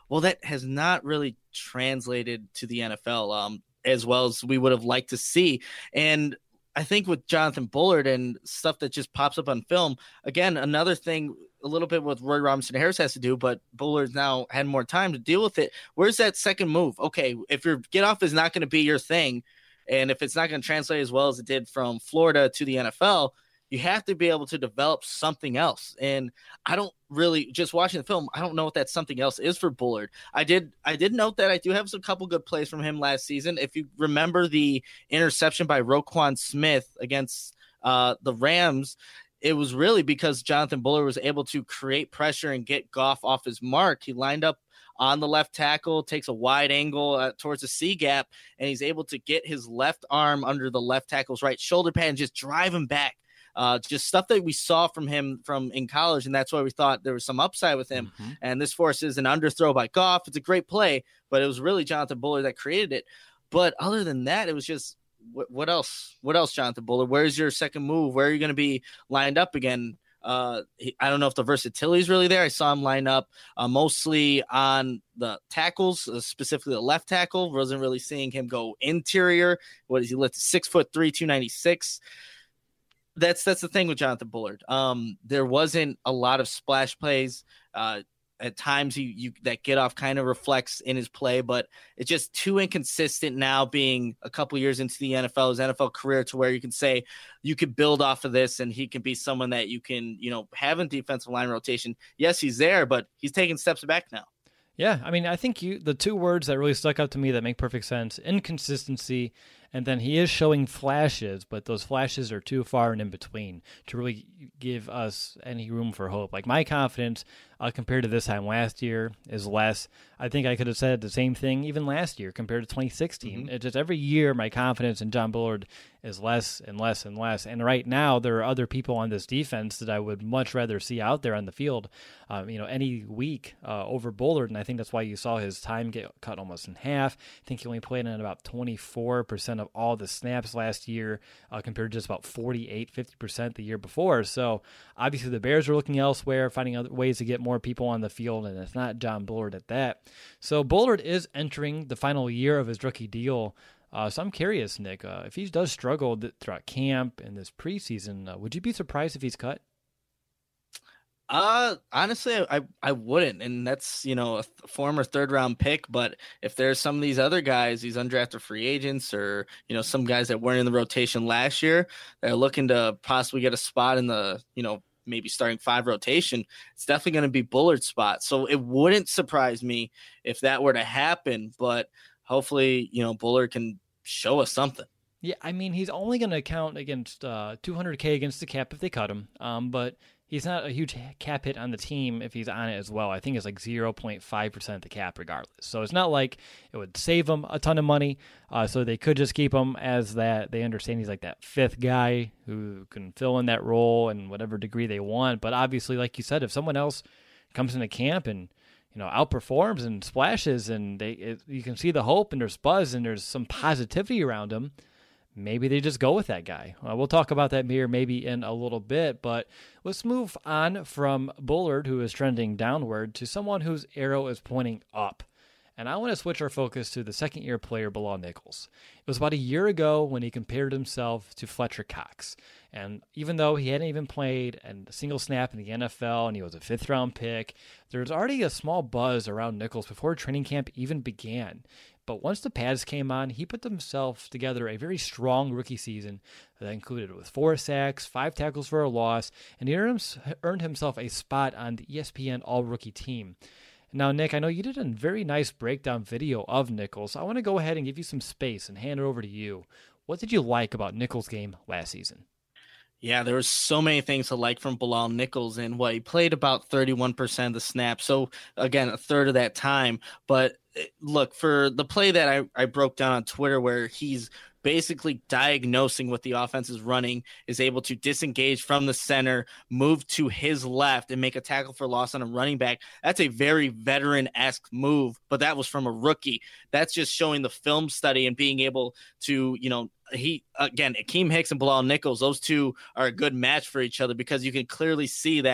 Well, that has not really translated to the N F L um, as well as we would have liked to see. And I think with Jonathan Bullard and stuff that just pops up on film, again, another thing, a little bit what Roy Robinson Harris has to do, but Bullard's now had more time to deal with it. Where's that second move? Okay, if your get off is not going to be your thing, and if it's not going to translate as well as it did from Florida to the N F L, you have to be able to develop something else. And I don't really, just watching the film, I don't know what that something else is for Bullard. I did I did note that I do have some couple good plays from him last season. If you remember the interception by Roquan Smith against uh, the Rams, it was really because Jonathan Bullard was able to create pressure and get Goff off his mark. He lined up on the left tackle, takes a wide angle uh, towards the C gap, and he's able to get his left arm under the left tackle's right shoulder pad and just drive him back. Uh, just stuff that we saw from him from in college, and that's why we thought there was some upside with him. Mm-hmm. And this forces an underthrow by Goff. It's a great play, but it was really Jonathan Bullard that created it. But other than that, it was just what, what else? What else, Jonathan Bullard? Where's your second move? Where are you going to be lined up again? Uh, he, I don't know if the versatility is really there. I saw him line up uh, mostly on the tackles, uh, specifically the left tackle. Wasn't really seeing him go interior. What is he lifted? Six foot three, two ninety-six. That's that's the thing with Jonathan Bullard. Um, there wasn't a lot of splash plays. Uh, at times, you, you that get off kind of reflects in his play, but it's just too inconsistent now. Being a couple years into the N F L, his N F L career, to where you can say you could build off of this, and he can be someone that you can you know have in defensive line rotation. Yes, he's there, but he's taking steps back now. Yeah, I mean, I think you the two words that really stuck out to me that make perfect sense: inconsistency. And then he is showing flashes, but those flashes are too far and in between to really give us any room for hope. Like, my confidence uh, compared to this time last year is less. I think I could have said the same thing even last year compared to twenty sixteen. Mm-hmm. It's just every year my confidence in John Bullard is less and less and less. And right now there are other people on this defense that I would much rather see out there on the field, um, you know, any week uh, over Bullard. And I think that's why you saw his time get cut almost in half. I think he only played in about twenty-four percent of all the snaps last year uh, compared to just about forty-eight, fifty percent the year before. So obviously the Bears are looking elsewhere, finding other ways to get more people on the field, and it's not John Bullard at that. So Bullard is entering the final year of his rookie deal. Uh, so I'm curious, Nick, uh, if he does struggle th- throughout camp and this preseason, uh, would you be surprised if he's cut? Uh, honestly, I, I wouldn't. And that's, you know, a th- former third round pick. But if there's some of these other guys, these undrafted free agents, or, you know, some guys that weren't in the rotation last year, that are looking to possibly get a spot in the, you know, maybe starting five rotation, it's definitely going to be Bullard's spot. So it wouldn't surprise me if that were to happen, but hopefully, you know, Bullard can show us something. Yeah. I mean, he's only going to count against uh two hundred K against the cap if they cut him. Um, but he's not a huge cap hit on the team if he's on it as well. I think it's like zero point five percent of the cap regardless. So it's not like it would save him a ton of money. Uh, so they could just keep him as that. They understand he's like that fifth guy who can fill in that role in whatever degree they want. But obviously, like you said, if someone else comes into camp and, you know, outperforms and splashes, and they it, you can see the hope and there's buzz and there's some positivity around him, maybe they just go with that guy. Uh, we'll talk about that here maybe in a little bit, but let's move on from Bullard, who is trending downward, to someone whose arrow is pointing up. And I want to switch our focus to the second-year player, Bilal Nichols. It was about a year ago when he compared himself to Fletcher Cox. And even though he hadn't even played a single snap in the N F L and he was a fifth-round pick, there was already a small buzz around Nichols before training camp even began. But once the pads came on, he put himself together a very strong rookie season that included with four sacks, five tackles for a loss, and he earned himself a spot on the E S P N All-Rookie team. Now, Nick, I know you did a very nice breakdown video of Nichols. I want to go ahead and give you some space and hand it over to you. What did you like about Nichols' game last season? Yeah, there was so many things to like from Bilal Nichols, and what he played about thirty-one percent of the snaps. So again, a third of that time. But look, for the play that I, I broke down on Twitter where he's basically diagnosing what the offense is running, is able to disengage from the center, move to his left, and make a tackle for loss on a running back. That's a very veteran-esque move, but that was from a rookie. That's just showing the film study and being able to, you know, he, again, Akeem Hicks and Bilal Nichols, those two are a good match for each other because you can clearly see that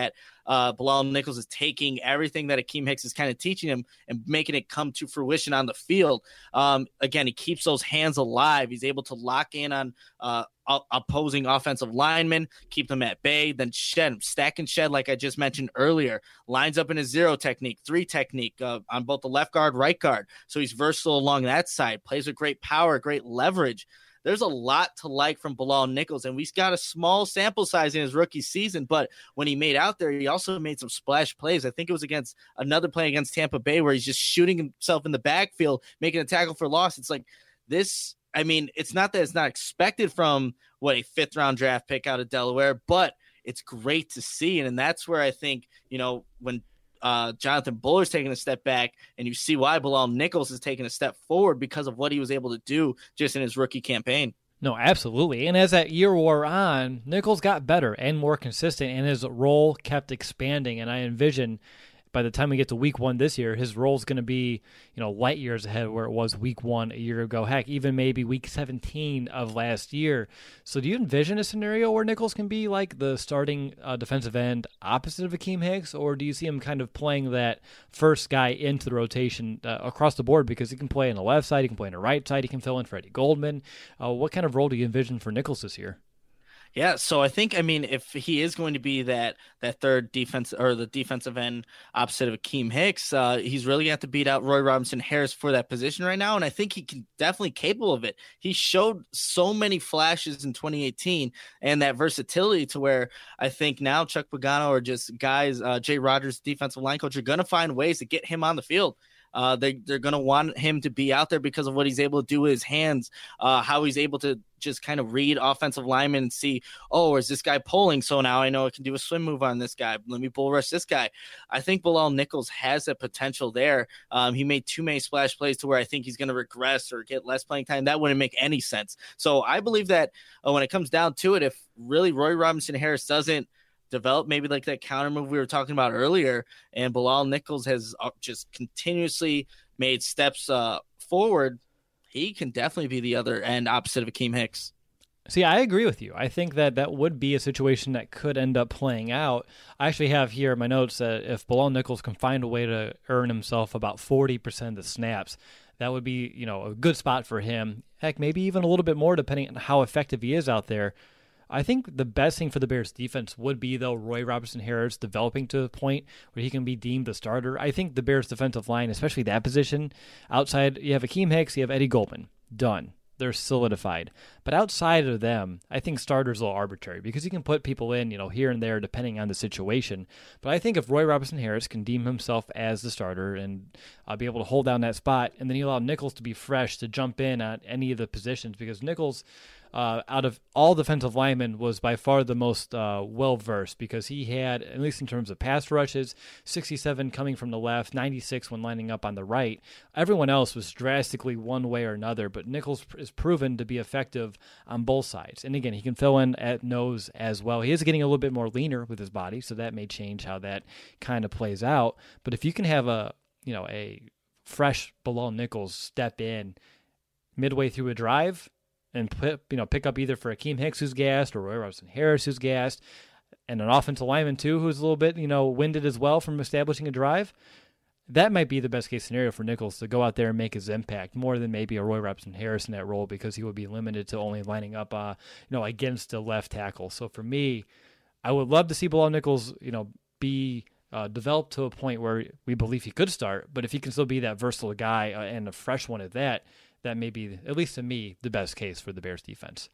uh, Bilal Nichols is taking everything that Akeem Hicks is kind of teaching him and making it come to fruition on the field. Um, again, he keeps those hands alive. He's able to lock in on uh, opposing offensive linemen, keep them at bay, then shed, stack and shed, like I just mentioned earlier. Lines up in a zero technique, three technique uh, on both the left guard, right guard. So he's versatile along that side, plays with great power, great leverage. There's a lot to like from Bilal Nichols, and we've got a small sample size in his rookie season, but when he made out there, he also made some splash plays. I think it was against another play against Tampa Bay where he's just shooting himself in the backfield, making a tackle for loss. It's like this, I mean, it's not that it's not expected from what a fifth round draft pick out of Delaware, but it's great to see. And, and that's where I think, you know, when Uh, Jonathan Buller's taking a step back, and you see why Bilal Nichols is taking a step forward because of what he was able to do just in his rookie campaign. No, absolutely. And as that year wore on, Nichols got better and more consistent, and his role kept expanding. And I envision by the time we get to week one this year, his role is going to be, you know, light years ahead of where it was week one a year ago. Heck, even maybe week seventeen of last year. So do you envision a scenario where Nichols can be like the starting uh, defensive end opposite of Akeem Hicks, or do you see him kind of playing that first guy into the rotation uh, across the board because he can play on the left side, he can play on the right side, he can fill in for Eddie Goldman? Uh, what kind of role do you envision for Nichols this year? Yeah, so I think, I mean, if he is going to be that that third defense or the defensive end opposite of Akeem Hicks, uh, he's really going to have to beat out Roy Robinson Harris for that position right now, and I think he can definitely capable of it. He showed so many flashes in twenty eighteen and that versatility to where I think now Chuck Pagano or just guys, uh, Jay Rogers, defensive line coach, are going to find ways to get him on the field. Uh, they, they're going to want him to be out there because of what he's able to do with his hands, uh, how he's able to just kind of read offensive linemen and see, oh, is this guy pulling? So now I know I can do a swim move on this guy. Let me bull rush this guy. I think Bilal Nichols has that potential there. Um, he made too many splash plays to where I think he's going to regress or get less playing time. That wouldn't make any sense. So I believe that uh, when it comes down to it, if really Roy Robinson Harris doesn't develop maybe like that counter move we were talking about earlier, and Bilal Nichols has just continuously made steps uh, forward, he can definitely be the other end opposite of Akeem Hicks. See, I agree with you. I think that that would be a situation that could end up playing out. I actually have here in my notes that if Bilal Nichols can find a way to earn himself about forty percent of the snaps, that would be, you know, a good spot for him. Heck, maybe even a little bit more depending on how effective he is out there. I think the best thing for the Bears defense would be, though, Roy Robinson Harris developing to the point where he can be deemed the starter. I think the Bears defensive line, especially that position, outside, you have Akeem Hicks, you have Eddie Goldman. Done. They're solidified. But outside of them, I think starters are a little arbitrary because you can put people in, you know, here and there depending on the situation. But I think if Roy Robinson Harris can deem himself as the starter and uh, be able to hold down that spot, and then you allow Nichols to be fresh to jump in at any of the positions, because Nichols, Uh, out of all defensive linemen, was by far the most uh, well-versed because he had, at least in terms of pass rushes, sixty-seven coming from the left, ninety-six when lining up on the right. Everyone else was drastically one way or another, but Nichols is proven to be effective on both sides. And again, he can fill in at nose as well. He is getting a little bit more leaner with his body, so that may change how that kind of plays out. But if you can have a, you know, a fresh Bilal Nichols step in midway through a drive, and put, you know, pick up either for Akeem Hicks, who's gassed, or Roy Robinson Harris, who's gassed, and an offensive lineman, too, who's a little bit, you know, winded as well from establishing a drive, that might be the best-case scenario for Nichols to go out there and make his impact, more than maybe a Roy Robinson Harris in that role, because he would be limited to only lining up, uh, you know, against the left tackle. So for me, I would love to see Bilal Nichols, you know, be uh, developed to a point where we believe he could start, but if he can still be that versatile guy uh, and a fresh one at that, that may be, at least to me, the best case for the Bears defense.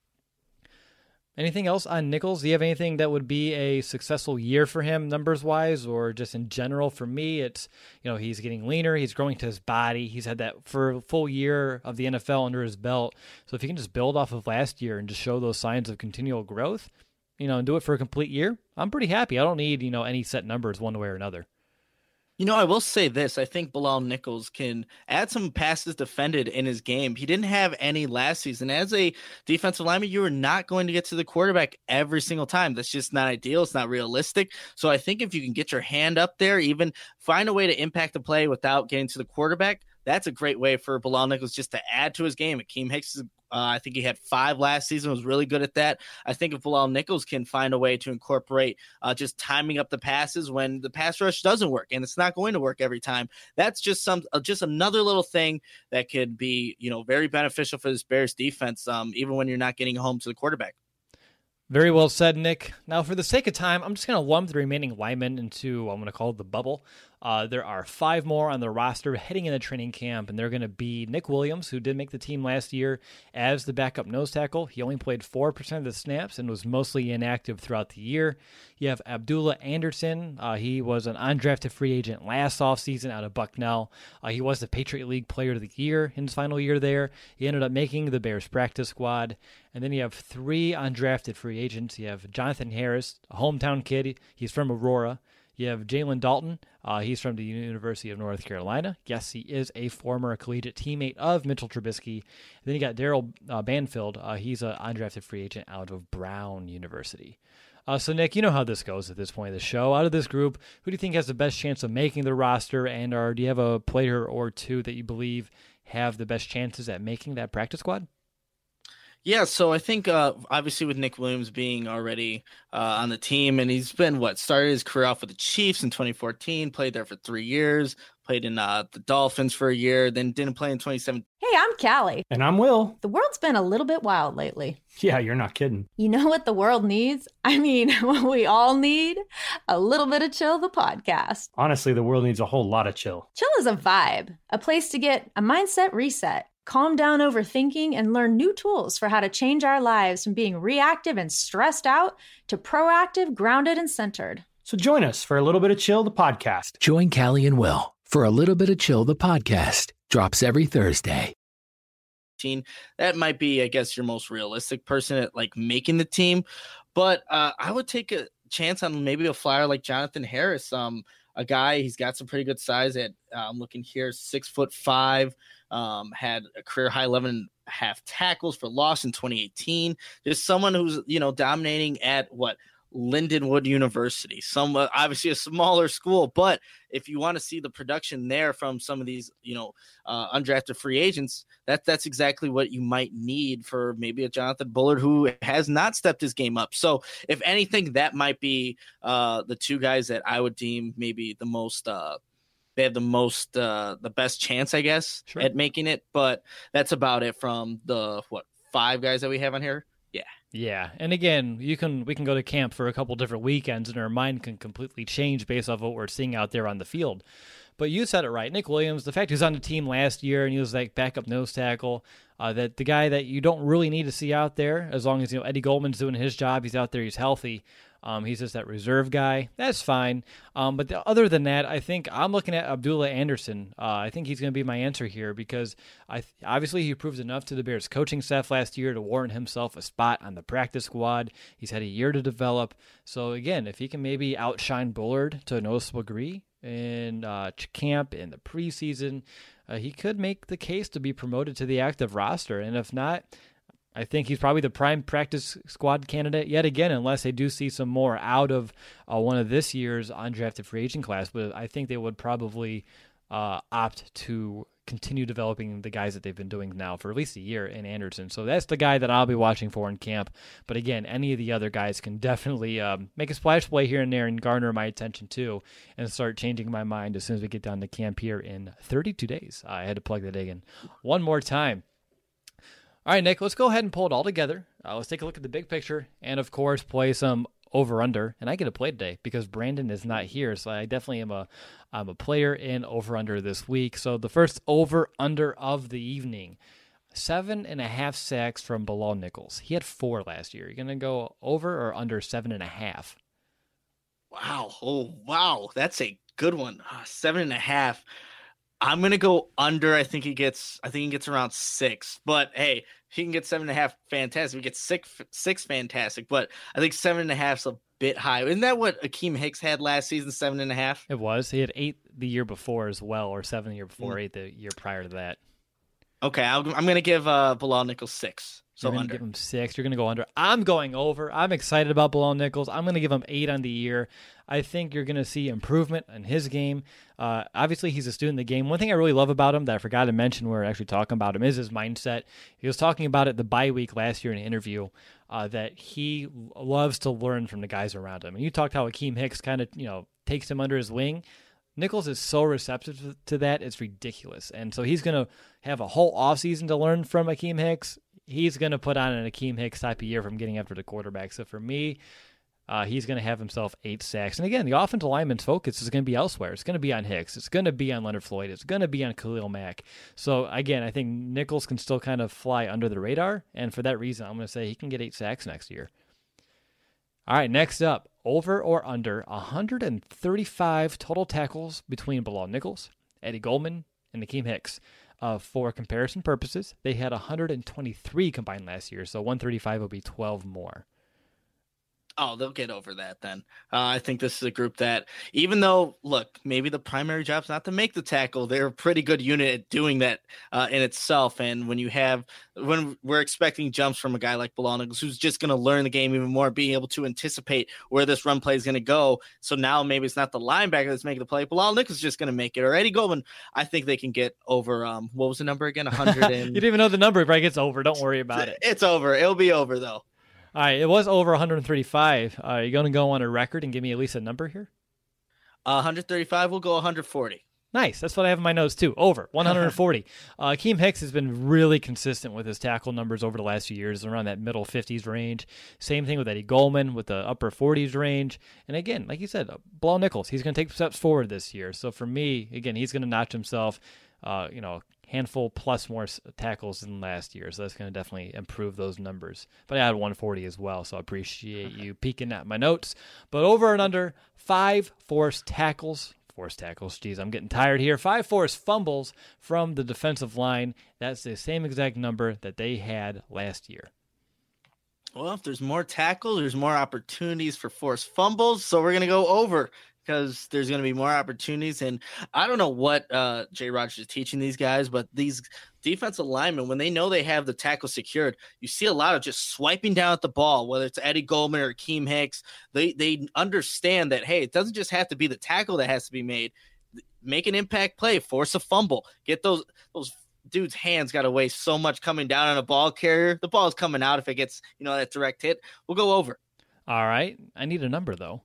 Anything else on Nichols? Do you have anything that would be a successful year for him numbers-wise, or just in general? For me, it's, you know, he's getting leaner, he's growing to his body, he's had that for a full year of the N F L under his belt. So if he can just build off of last year and just show those signs of continual growth, you know, and do it for a complete year, I'm pretty happy. I don't need, you know, any set numbers one way or another. You know, I will say this. I think Bilal Nichols can add some passes defended in his game. He didn't have any last season. As a defensive lineman, you are not going to get to the quarterback every single time. That's just not ideal. It's not realistic. So I think if you can get your hand up there, even find a way to impact the play without getting to the quarterback, that's a great way for Bilal Nichols just to add to his game. Akeem Hicks is Uh, I think he had five last season, was really good at that. I think if Bilal Nichols can find a way to incorporate uh, just timing up the passes when the pass rush doesn't work, and it's not going to work every time, that's just some uh, just another little thing that could be, you know, very beneficial for this Bears defense, um, even when you're not getting home to the quarterback. Very well said, Nick. Now, for the sake of time, I'm just going to lump the remaining linemen into, I'm going to call it the bubble. Uh, there are five more on the roster heading into training camp, and they're going to be Nick Williams, who did make the team last year as the backup nose tackle. He only played four percent of the snaps and was mostly inactive throughout the year. You have Abdullah Anderson. Uh, he was an undrafted free agent last offseason out of Bucknell. Uh, he was the Patriot League Player of the Year in his final year there. He ended up making the Bears practice squad. And then you have three undrafted free agents. You have Jonathan Harris, a hometown kid. He's from Aurora. You have Jalen Dalton. Uh, he's from the University of North Carolina. Yes, he is a former collegiate teammate of Mitchell Trubisky. And then you got Daryl uh, Banfield. Uh, he's an undrafted free agent out of Brown University. Uh, so, Nick, you know how this goes at this point of the show. Out of this group, who do you think has the best chance of making the roster? And or do you have a player or two that you believe have the best chances at making that practice squad? Yeah, so I think uh, obviously with Nick Williams being already uh, on the team, and he's been, what, started his career off with the Chiefs in twenty fourteen, played there for three years, played in uh, the Dolphins for a year, then didn't play in twenty seventeen. Hey, I'm Callie. And I'm Will. The world's been a little bit wild lately. Yeah, you're not kidding. You know what the world needs? I mean, what we all need? A little bit of Chill, the podcast. Honestly, the world needs a whole lot of chill. Chill is a vibe, a place to get a mindset reset, calm down overthinking, and learn new tools for how to change our lives from being reactive and stressed out to proactive, grounded, and centered. So join us for a little bit of Chill, the podcast. Join Callie and Will for a little bit of Chill, the podcast. Drops every Thursday. That might be, I guess, your most realistic person at like making the team. But uh, I would take a chance on maybe a flyer like Jonathan Harris. Um, a guy, he's got some pretty good size at, uh, I'm looking here, six foot five. Um, had a career high eleven and a half tackles for loss in twenty eighteen. Just someone who's, you know, dominating at what Lindenwood University, some uh, obviously a smaller school, but if you want to see the production there from some of these, you know, uh, undrafted free agents, that that's exactly what you might need for maybe a Jonathan Bullard who has not stepped his game up. So if anything, that might be uh, the two guys that I would deem maybe the most uh, they have the most, uh, the best chance, I guess, sure, at making it. But that's about it from the, what, five guys that we have on here? Yeah. Yeah. And again, you can we can go to camp for a couple different weekends and our mind can completely change based off what we're seeing out there on the field. But you said it right. Nick Williams, the fact he was on the team last year and he was like backup nose tackle, uh, that the guy that you don't really need to see out there, as long as, you know, Eddie Goldman's doing his job, he's out there, he's healthy. Um, he's just that reserve guy. That's fine. Um, but the, other than that, I think I'm looking at Abdullah Anderson. Uh, I think he's going to be my answer here because I th- obviously he proved enough to the Bears coaching staff last year to warrant himself a spot on the practice squad. He's had a year to develop. So again, if he can maybe outshine Bullard to a noticeable degree in uh, camp in the preseason, uh, he could make the case to be promoted to the active roster. And if not, I think he's probably the prime practice squad candidate yet again, unless they do see some more out of uh, one of this year's undrafted free agent class. But I think they would probably uh, opt to continue developing the guys that they've been doing now for at least a year in Anderson. So that's the guy that I'll be watching for in camp. But again, any of the other guys can definitely um, make a splash play here and there and garner my attention too and start changing my mind as soon as we get down to camp here in thirty-two days. I had to plug that in one more time. All right, Nick, let's go ahead and pull it all together. Uh, let's take a look at the big picture and, of course, play some over-under. And I get to play today because Brandon is not here, so I definitely am a, I'm a player in over-under this week. So the first over-under of the evening, seven and a half sacks from Bilal Nichols. He had four last year. You're going to go over or under seven and a half? Wow. Oh, wow. That's a good one. Uh, seven and a half. I'm gonna go under. I think he gets. I think he gets around six. But hey, if he can get seven and a half, fantastic. We get six, six, fantastic. But I think seven and a half's a bit high. Isn't that what Akeem Hicks had last season? Seven and a half. It was. He had eight the year before as well, or seven the year before, mm. eight the year prior to that. Okay, I'll, I'm going to give uh, Bilal Nichols six. So You're going to under. give him six. You're going to go under. I'm going over. I'm excited about Bilal Nichols. I'm going to give him eight on the year. I think you're going to see improvement in his game. Uh, obviously, he's a student of the game. One thing I really love about him that I forgot to mention when we we're actually talking about him is his mindset. He was talking about it the bye week last year in an interview uh, that he loves to learn from the guys around him. And you talked how Akeem Hicks kind of, you know, takes him under his wing. Nichols is so receptive to that, it's ridiculous. And so he's going to have a whole offseason to learn from Akeem Hicks. He's going to put on an Akeem Hicks type of year from getting after the quarterback. So for me, uh, he's going to have himself eight sacks. And again, the offensive lineman's focus is going to be elsewhere. It's going to be on Hicks. It's going to be on Leonard Floyd. It's going to be on Khalil Mack. So again, I think Nichols can still kind of fly under the radar. And for that reason, I'm going to say he can get eight sacks next year. All right, next up, over or under one hundred thirty-five total tackles between Bilal Nichols, Eddie Goldman, and Akeem Hicks. Uh, for comparison purposes, they had one hundred twenty-three combined last year, so one thirty-five will be twelve more. Oh, they'll get over that then. Uh, I think this is a group that, even though, look, maybe the primary job's not to make the tackle, they're a pretty good unit at doing that uh, in itself. And when you have, when we're expecting jumps from a guy like Bilal Nichols, who's just going to learn the game even more, being able to anticipate where this run play is going to go. So now maybe it's not the linebacker that's making the play. Bilal Nichols is just going to make it. Or Eddie Goldman, I think they can get over, um, what was the number again? one hundred. And... You didn't even know the number. It probably gets over. Don't worry about it. It's over. It'll be over, though. All right, it was over one hundred thirty-five. Uh, are you going to go on a record and give me at least a number here? Uh, one hundred thirty-five, we'll go one hundred forty. Nice. That's what I have in my notes, too. Over. one hundred forty. uh, Akeem Hicks has been really consistent with his tackle numbers over the last few years, around that middle fifties range. Same thing with Eddie Goldman with the upper forties range. And again, like you said, Bilal Nichols, he's going to take steps forward this year. So for me, again, he's going to notch himself, uh, you know, handful plus more tackles than last year. So that's going to definitely improve those numbers. But I had one forty as well, so I appreciate you peeking at my notes. But over and under, five forced tackles. Forced tackles, geez, I'm getting tired here. Five forced fumbles from the defensive line. That's the same exact number that they had last year. Well, if there's more tackles, there's more opportunities for forced fumbles. So we're going to go over, because there's going to be more opportunities. And I don't know what uh, Jay Rogers is teaching these guys, but these defensive linemen, when they know they have the tackle secured, you see a lot of just swiping down at the ball, whether it's Eddie Goldman or Akeem Hicks. They they understand that, hey, it doesn't just have to be the tackle that has to be made. Make an impact play, force a fumble, get those those dude's hands got to weigh so much coming down on a ball carrier. The ball's coming out if it gets, you know, that direct hit. We'll go over. All right. I need a number, though.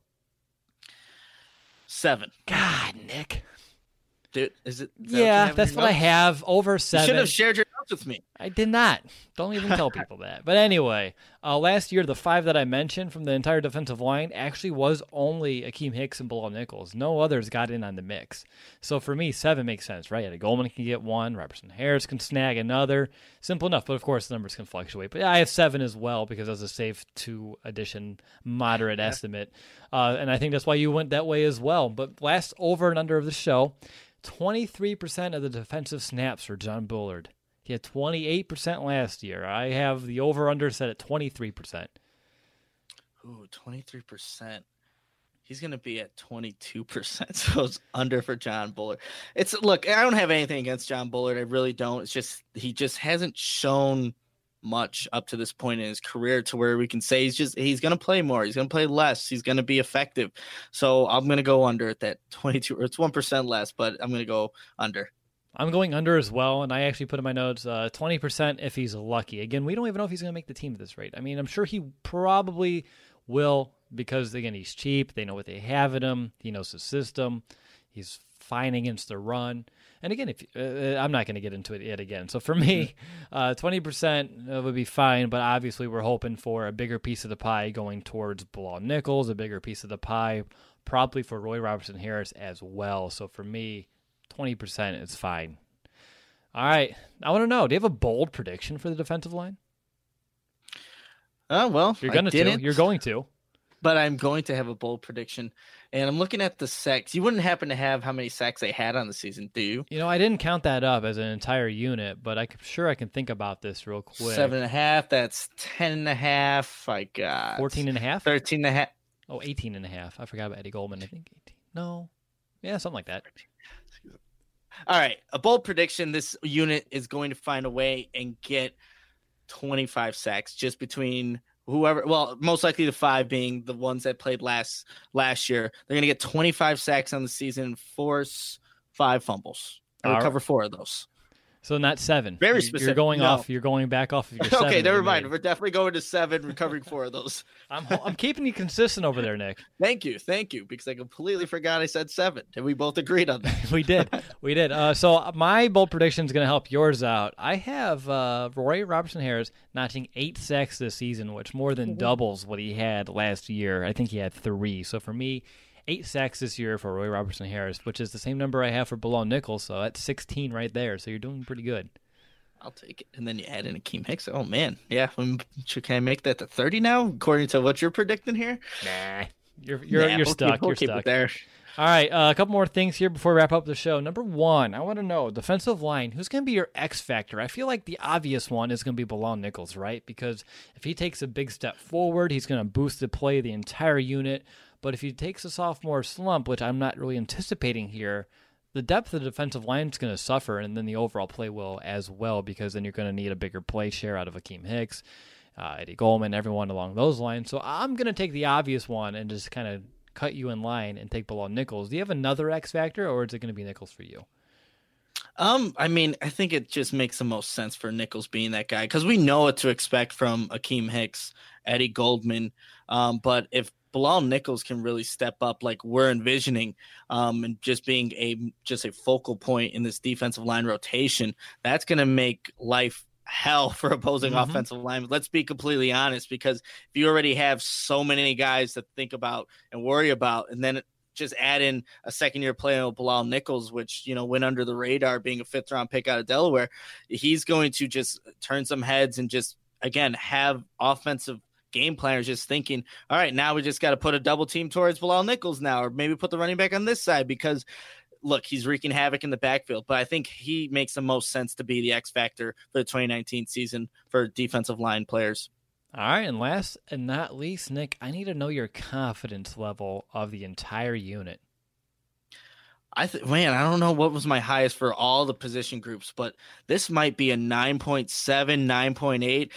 Seven. God, Nick. Dude, is it? Is yeah, that that's what I have. Over seven. You should have shared your notes with me. I did not. Don't even tell people that. But anyway, uh, last year, the five that I mentioned from the entire defensive line actually was only Akeem Hicks and Bilal Nichols. No others got in on the mix. So for me, seven makes sense, right? Eddie Goldman can get one. Robertson Harris can snag another. Simple enough, but of course the numbers can fluctuate. But yeah, I have seven as well because that's a safe two addition moderate yeah. estimate. Uh, and I think that's why you went that way as well. But last over and under of the show, twenty-three percent of the defensive snaps for John Bullard. He had twenty-eight percent last year. I have the over-under set at twenty-three percent. Ooh, twenty-three percent. He's going to be at twenty-two percent, so it's under for John Bullard. It's look, I don't have anything against John Bullard. I really don't. It's just he just hasn't shown much up to this point in his career to where we can say he's just he's going to play more. He's going to play less. He's going to be effective. So I'm going to go under at that twenty-two, or it's one percent less, but I'm going to go under. I'm going under as well, and I actually put in my notes uh, twenty percent if he's lucky. Again, we don't even know if he's going to make the team at this rate. I mean, I'm sure he probably will because, again, he's cheap. They know what they have in him. He knows the system. He's fine against the run. And again, if uh, I'm not going to get into it yet again. So for me, uh, twenty percent would be fine, but obviously we're hoping for a bigger piece of the pie going towards Bilal Nichols, a bigger piece of the pie probably for Roy Robertson Harris as well. So for me, twenty percent is fine. All right. I want to know, do you have a bold prediction for the defensive line? Oh, uh, well, You're going to. You're going to. But I'm going to have a bold prediction. And I'm looking at the sacks. You wouldn't happen to have how many sacks they had on the season, do you? You know, I didn't count that up as an entire unit, but I'm sure I can think about this real quick. Seven and a half. That's ten and a half. I got fourteen and a half. Thirteen and a half. Oh, eighteen and a half. I forgot about Eddie Goldman. I think eighteen. No. Yeah, something like that. All right, a bold prediction: this unit is going to find a way and get twenty-five sacks just between whoever. Well, most likely the five being the ones that played last last year. They're going to get twenty-five sacks on the season, force five fumbles, and recover four of those. So not seven. Very specific. You're going no. off. You're going back off of your seven. Okay, never mind. Made. We're definitely going to seven, recovering four of those. I'm I'm keeping you consistent over there, Nick. Thank you, thank you, because I completely forgot I said seven, and we both agreed on that. we did, we did. Uh, so my bold prediction is going to help yours out. I have uh, Roy Robertson Harris notching eight sacks this season, which more than doubles what he had last year. I think he had three. So for me, eight sacks this year for Roy Robertson Harris, which is the same number I have for Bilal Nichols. So that's sixteen right there. So you're doing pretty good. I'll take it. And then you add in Akeem Hicks. Oh, man. Yeah. Can I make that to thirty now, according to what you're predicting here? Nah. You're you're, nah, you're we'll stuck. Keep, we'll you're keep stuck. It there. All right. Uh, a couple more things here before we wrap up the show. Number one, I want to know, defensive line, who's going to be your X factor? I feel like the obvious one is going to be Bilal Nichols, right? Because if he takes a big step forward, he's going to boost the play of the entire unit. But if he takes a sophomore slump, which I'm not really anticipating here, the depth of the defensive line is going to suffer, and then the overall play will as well, because then you're going to need a bigger play share out of Akeem Hicks, uh, Eddie Goldman, everyone along those lines. So I'm going to take the obvious one and just kind of cut you in line and take Bilal Nichols. Do you have another X factor, or is it going to be Nichols for you? Um, I mean, I think it just makes the most sense for Nichols being that guy, because we know what to expect from Akeem Hicks, Eddie Goldman. Um, but if Bilal Nichols can really step up like we're envisioning, um, and just being a just a focal point in this defensive line rotation, that's going to make life hell for opposing mm-hmm. offensive linemen. Let's be completely honest, because if you already have so many guys to think about and worry about, and then just add in a second-year player with Bilal Nichols, which, you know, went under the radar being a fifth-round pick out of Delaware, he's going to just turn some heads and just, again, have offensive game planners just thinking, all right, now we just got to put a double team towards Bilal Nichols now, or maybe put the running back on this side, because look, he's wreaking havoc in the backfield. But I think he makes the most sense to be the X factor for the twenty nineteen season for defensive line players. All right, and last and not least, Nick, I need to know your confidence level of the entire unit. I think, man, I don't know what was my highest for all the position groups, but this might be a nine point seven, nine point eight.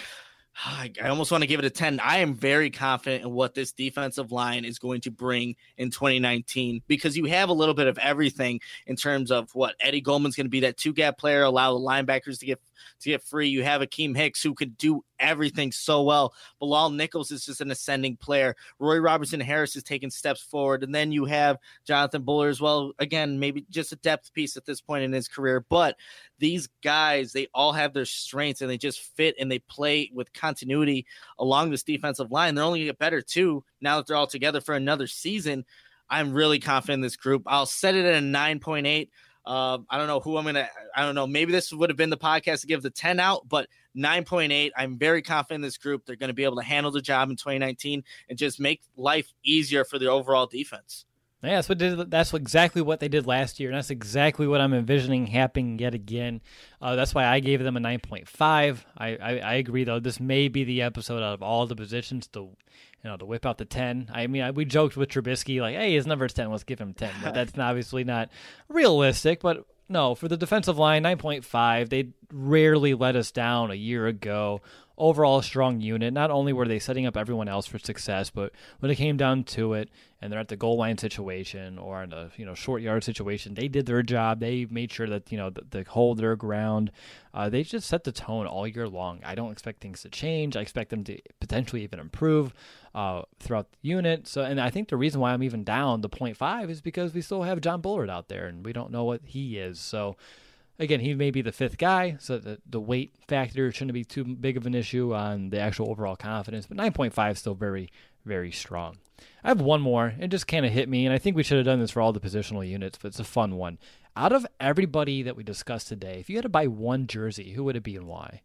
I almost want to give it a ten. I am very confident in what this defensive line is going to bring in twenty nineteen, because you have a little bit of everything in terms of what Eddie Goldman's going to be, that two gap player, allow the linebackers to get to get free. You have Akeem Hicks, who could do everything so well. Bilal Nichols is just an ascending player. Roy Robertson Harris is taking steps forward. And then you have Jonathan Buller as well. Again, maybe just a depth piece at this point in his career. But these guys, they all have their strengths, and they just fit and they play with continuity along this defensive line. They're only going to get better, too, now that they're all together for another season. I'm really confident in this group. I'll set it at a nine point eight. Uh, I don't know who I'm going to, I don't know. Maybe this would have been the podcast to give the ten out, but nine point eight, I'm very confident in this group. They're going to be able to handle the job in twenty nineteen and just make life easier for the overall defense. Yeah, that's what did. That's exactly what they did last year, and that's exactly what I'm envisioning happening yet again. Uh, that's why I gave them a nine point five. I, I, I agree, though. This may be the episode out of all the positions to, you know, to whip out the ten. I mean, I, we joked with Trubisky, like, hey, his number's ten, let's give him ten. But that's obviously not realistic. But no, for the defensive line, nine point five. They rarely let us down a year ago. Overall, a strong unit. Not only were they setting up everyone else for success, but when it came down to it, and they're at the goal line situation or in a you know short yard situation, they did their job. They made sure that you know they hold their ground. Uh, they just set the tone all year long. I don't expect things to change. I expect them to potentially even improve uh, throughout the unit. So, and I think the reason why I'm even down the point five is because we still have John Bullard out there, and we don't know what he is. So. Again, he may be the fifth guy, so the, the weight factor shouldn't be too big of an issue on the actual overall confidence, but nine point five is still very, very strong. I have one more. It just kind of hit me, and I think we should have done this for all the positional units, but it's a fun one. Out of everybody that we discussed today, if you had to buy one jersey, who would it be and why?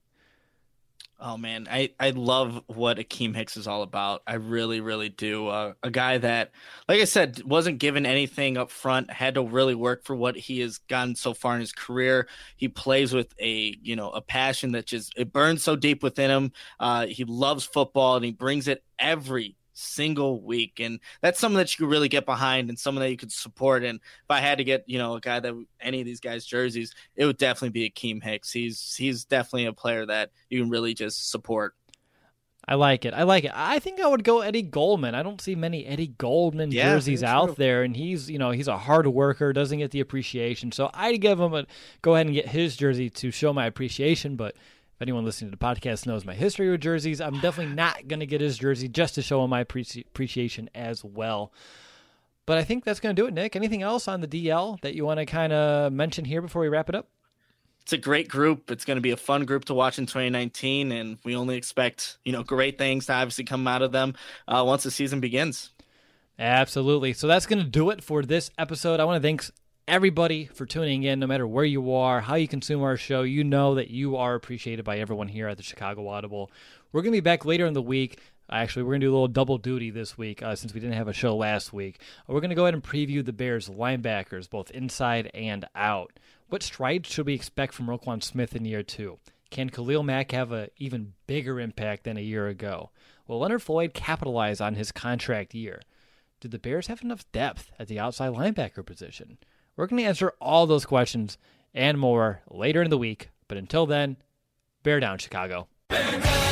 Oh, man, I, I love what Akeem Hicks is all about. I really, really do. Uh, a guy that, like I said, wasn't given anything up front, had to really work for what he has gotten so far in his career. He plays with a, you know, a passion that just, it burns so deep within him. Uh, he loves football, and he brings it every single week. And that's something that you could really get behind and someone that you could support. And if I had to get, you know, a guy that any of these guys' jerseys, it would definitely be Akeem Hicks. He's he's definitely a player that you can really just support. I like it. I like it. I think I would go Eddie Goldman. I don't see many Eddie Goldman Yeah, jerseys true. out there, and he's, you know, he's a hard worker, doesn't get the appreciation. So I'd give him a go ahead and get his jersey to show my appreciation. But if anyone listening to the podcast knows my history with jerseys, I'm definitely not going to get his jersey just to show him my appreci- appreciation as well. But I think that's going to do it, Nick. Anything else on the D L that you want to kind of mention here before we wrap it up? It's a great group. It's going to be a fun group to watch in twenty nineteen, and we only expect, you know, great things to obviously come out of them uh, once the season begins. Absolutely. So that's going to do it for this episode. I want to thank everybody for tuning in, no matter where you are, how you consume our show. You know that you are appreciated by everyone here at the Chicago Audible. We're going to be back later in the week. Actually, we're going to do a little double duty this week uh, since we didn't have a show last week. We're going to go ahead and preview the Bears linebackers, both inside and out. What strides should we expect from Roquan Smith in year two? Can Khalil Mack have an even bigger impact than a year ago? Will Leonard Floyd capitalize on his contract year? Do the Bears have enough depth at the outside linebacker position? We're going to answer all those questions and more later in the week. But until then, bear down, Chicago. Bear down.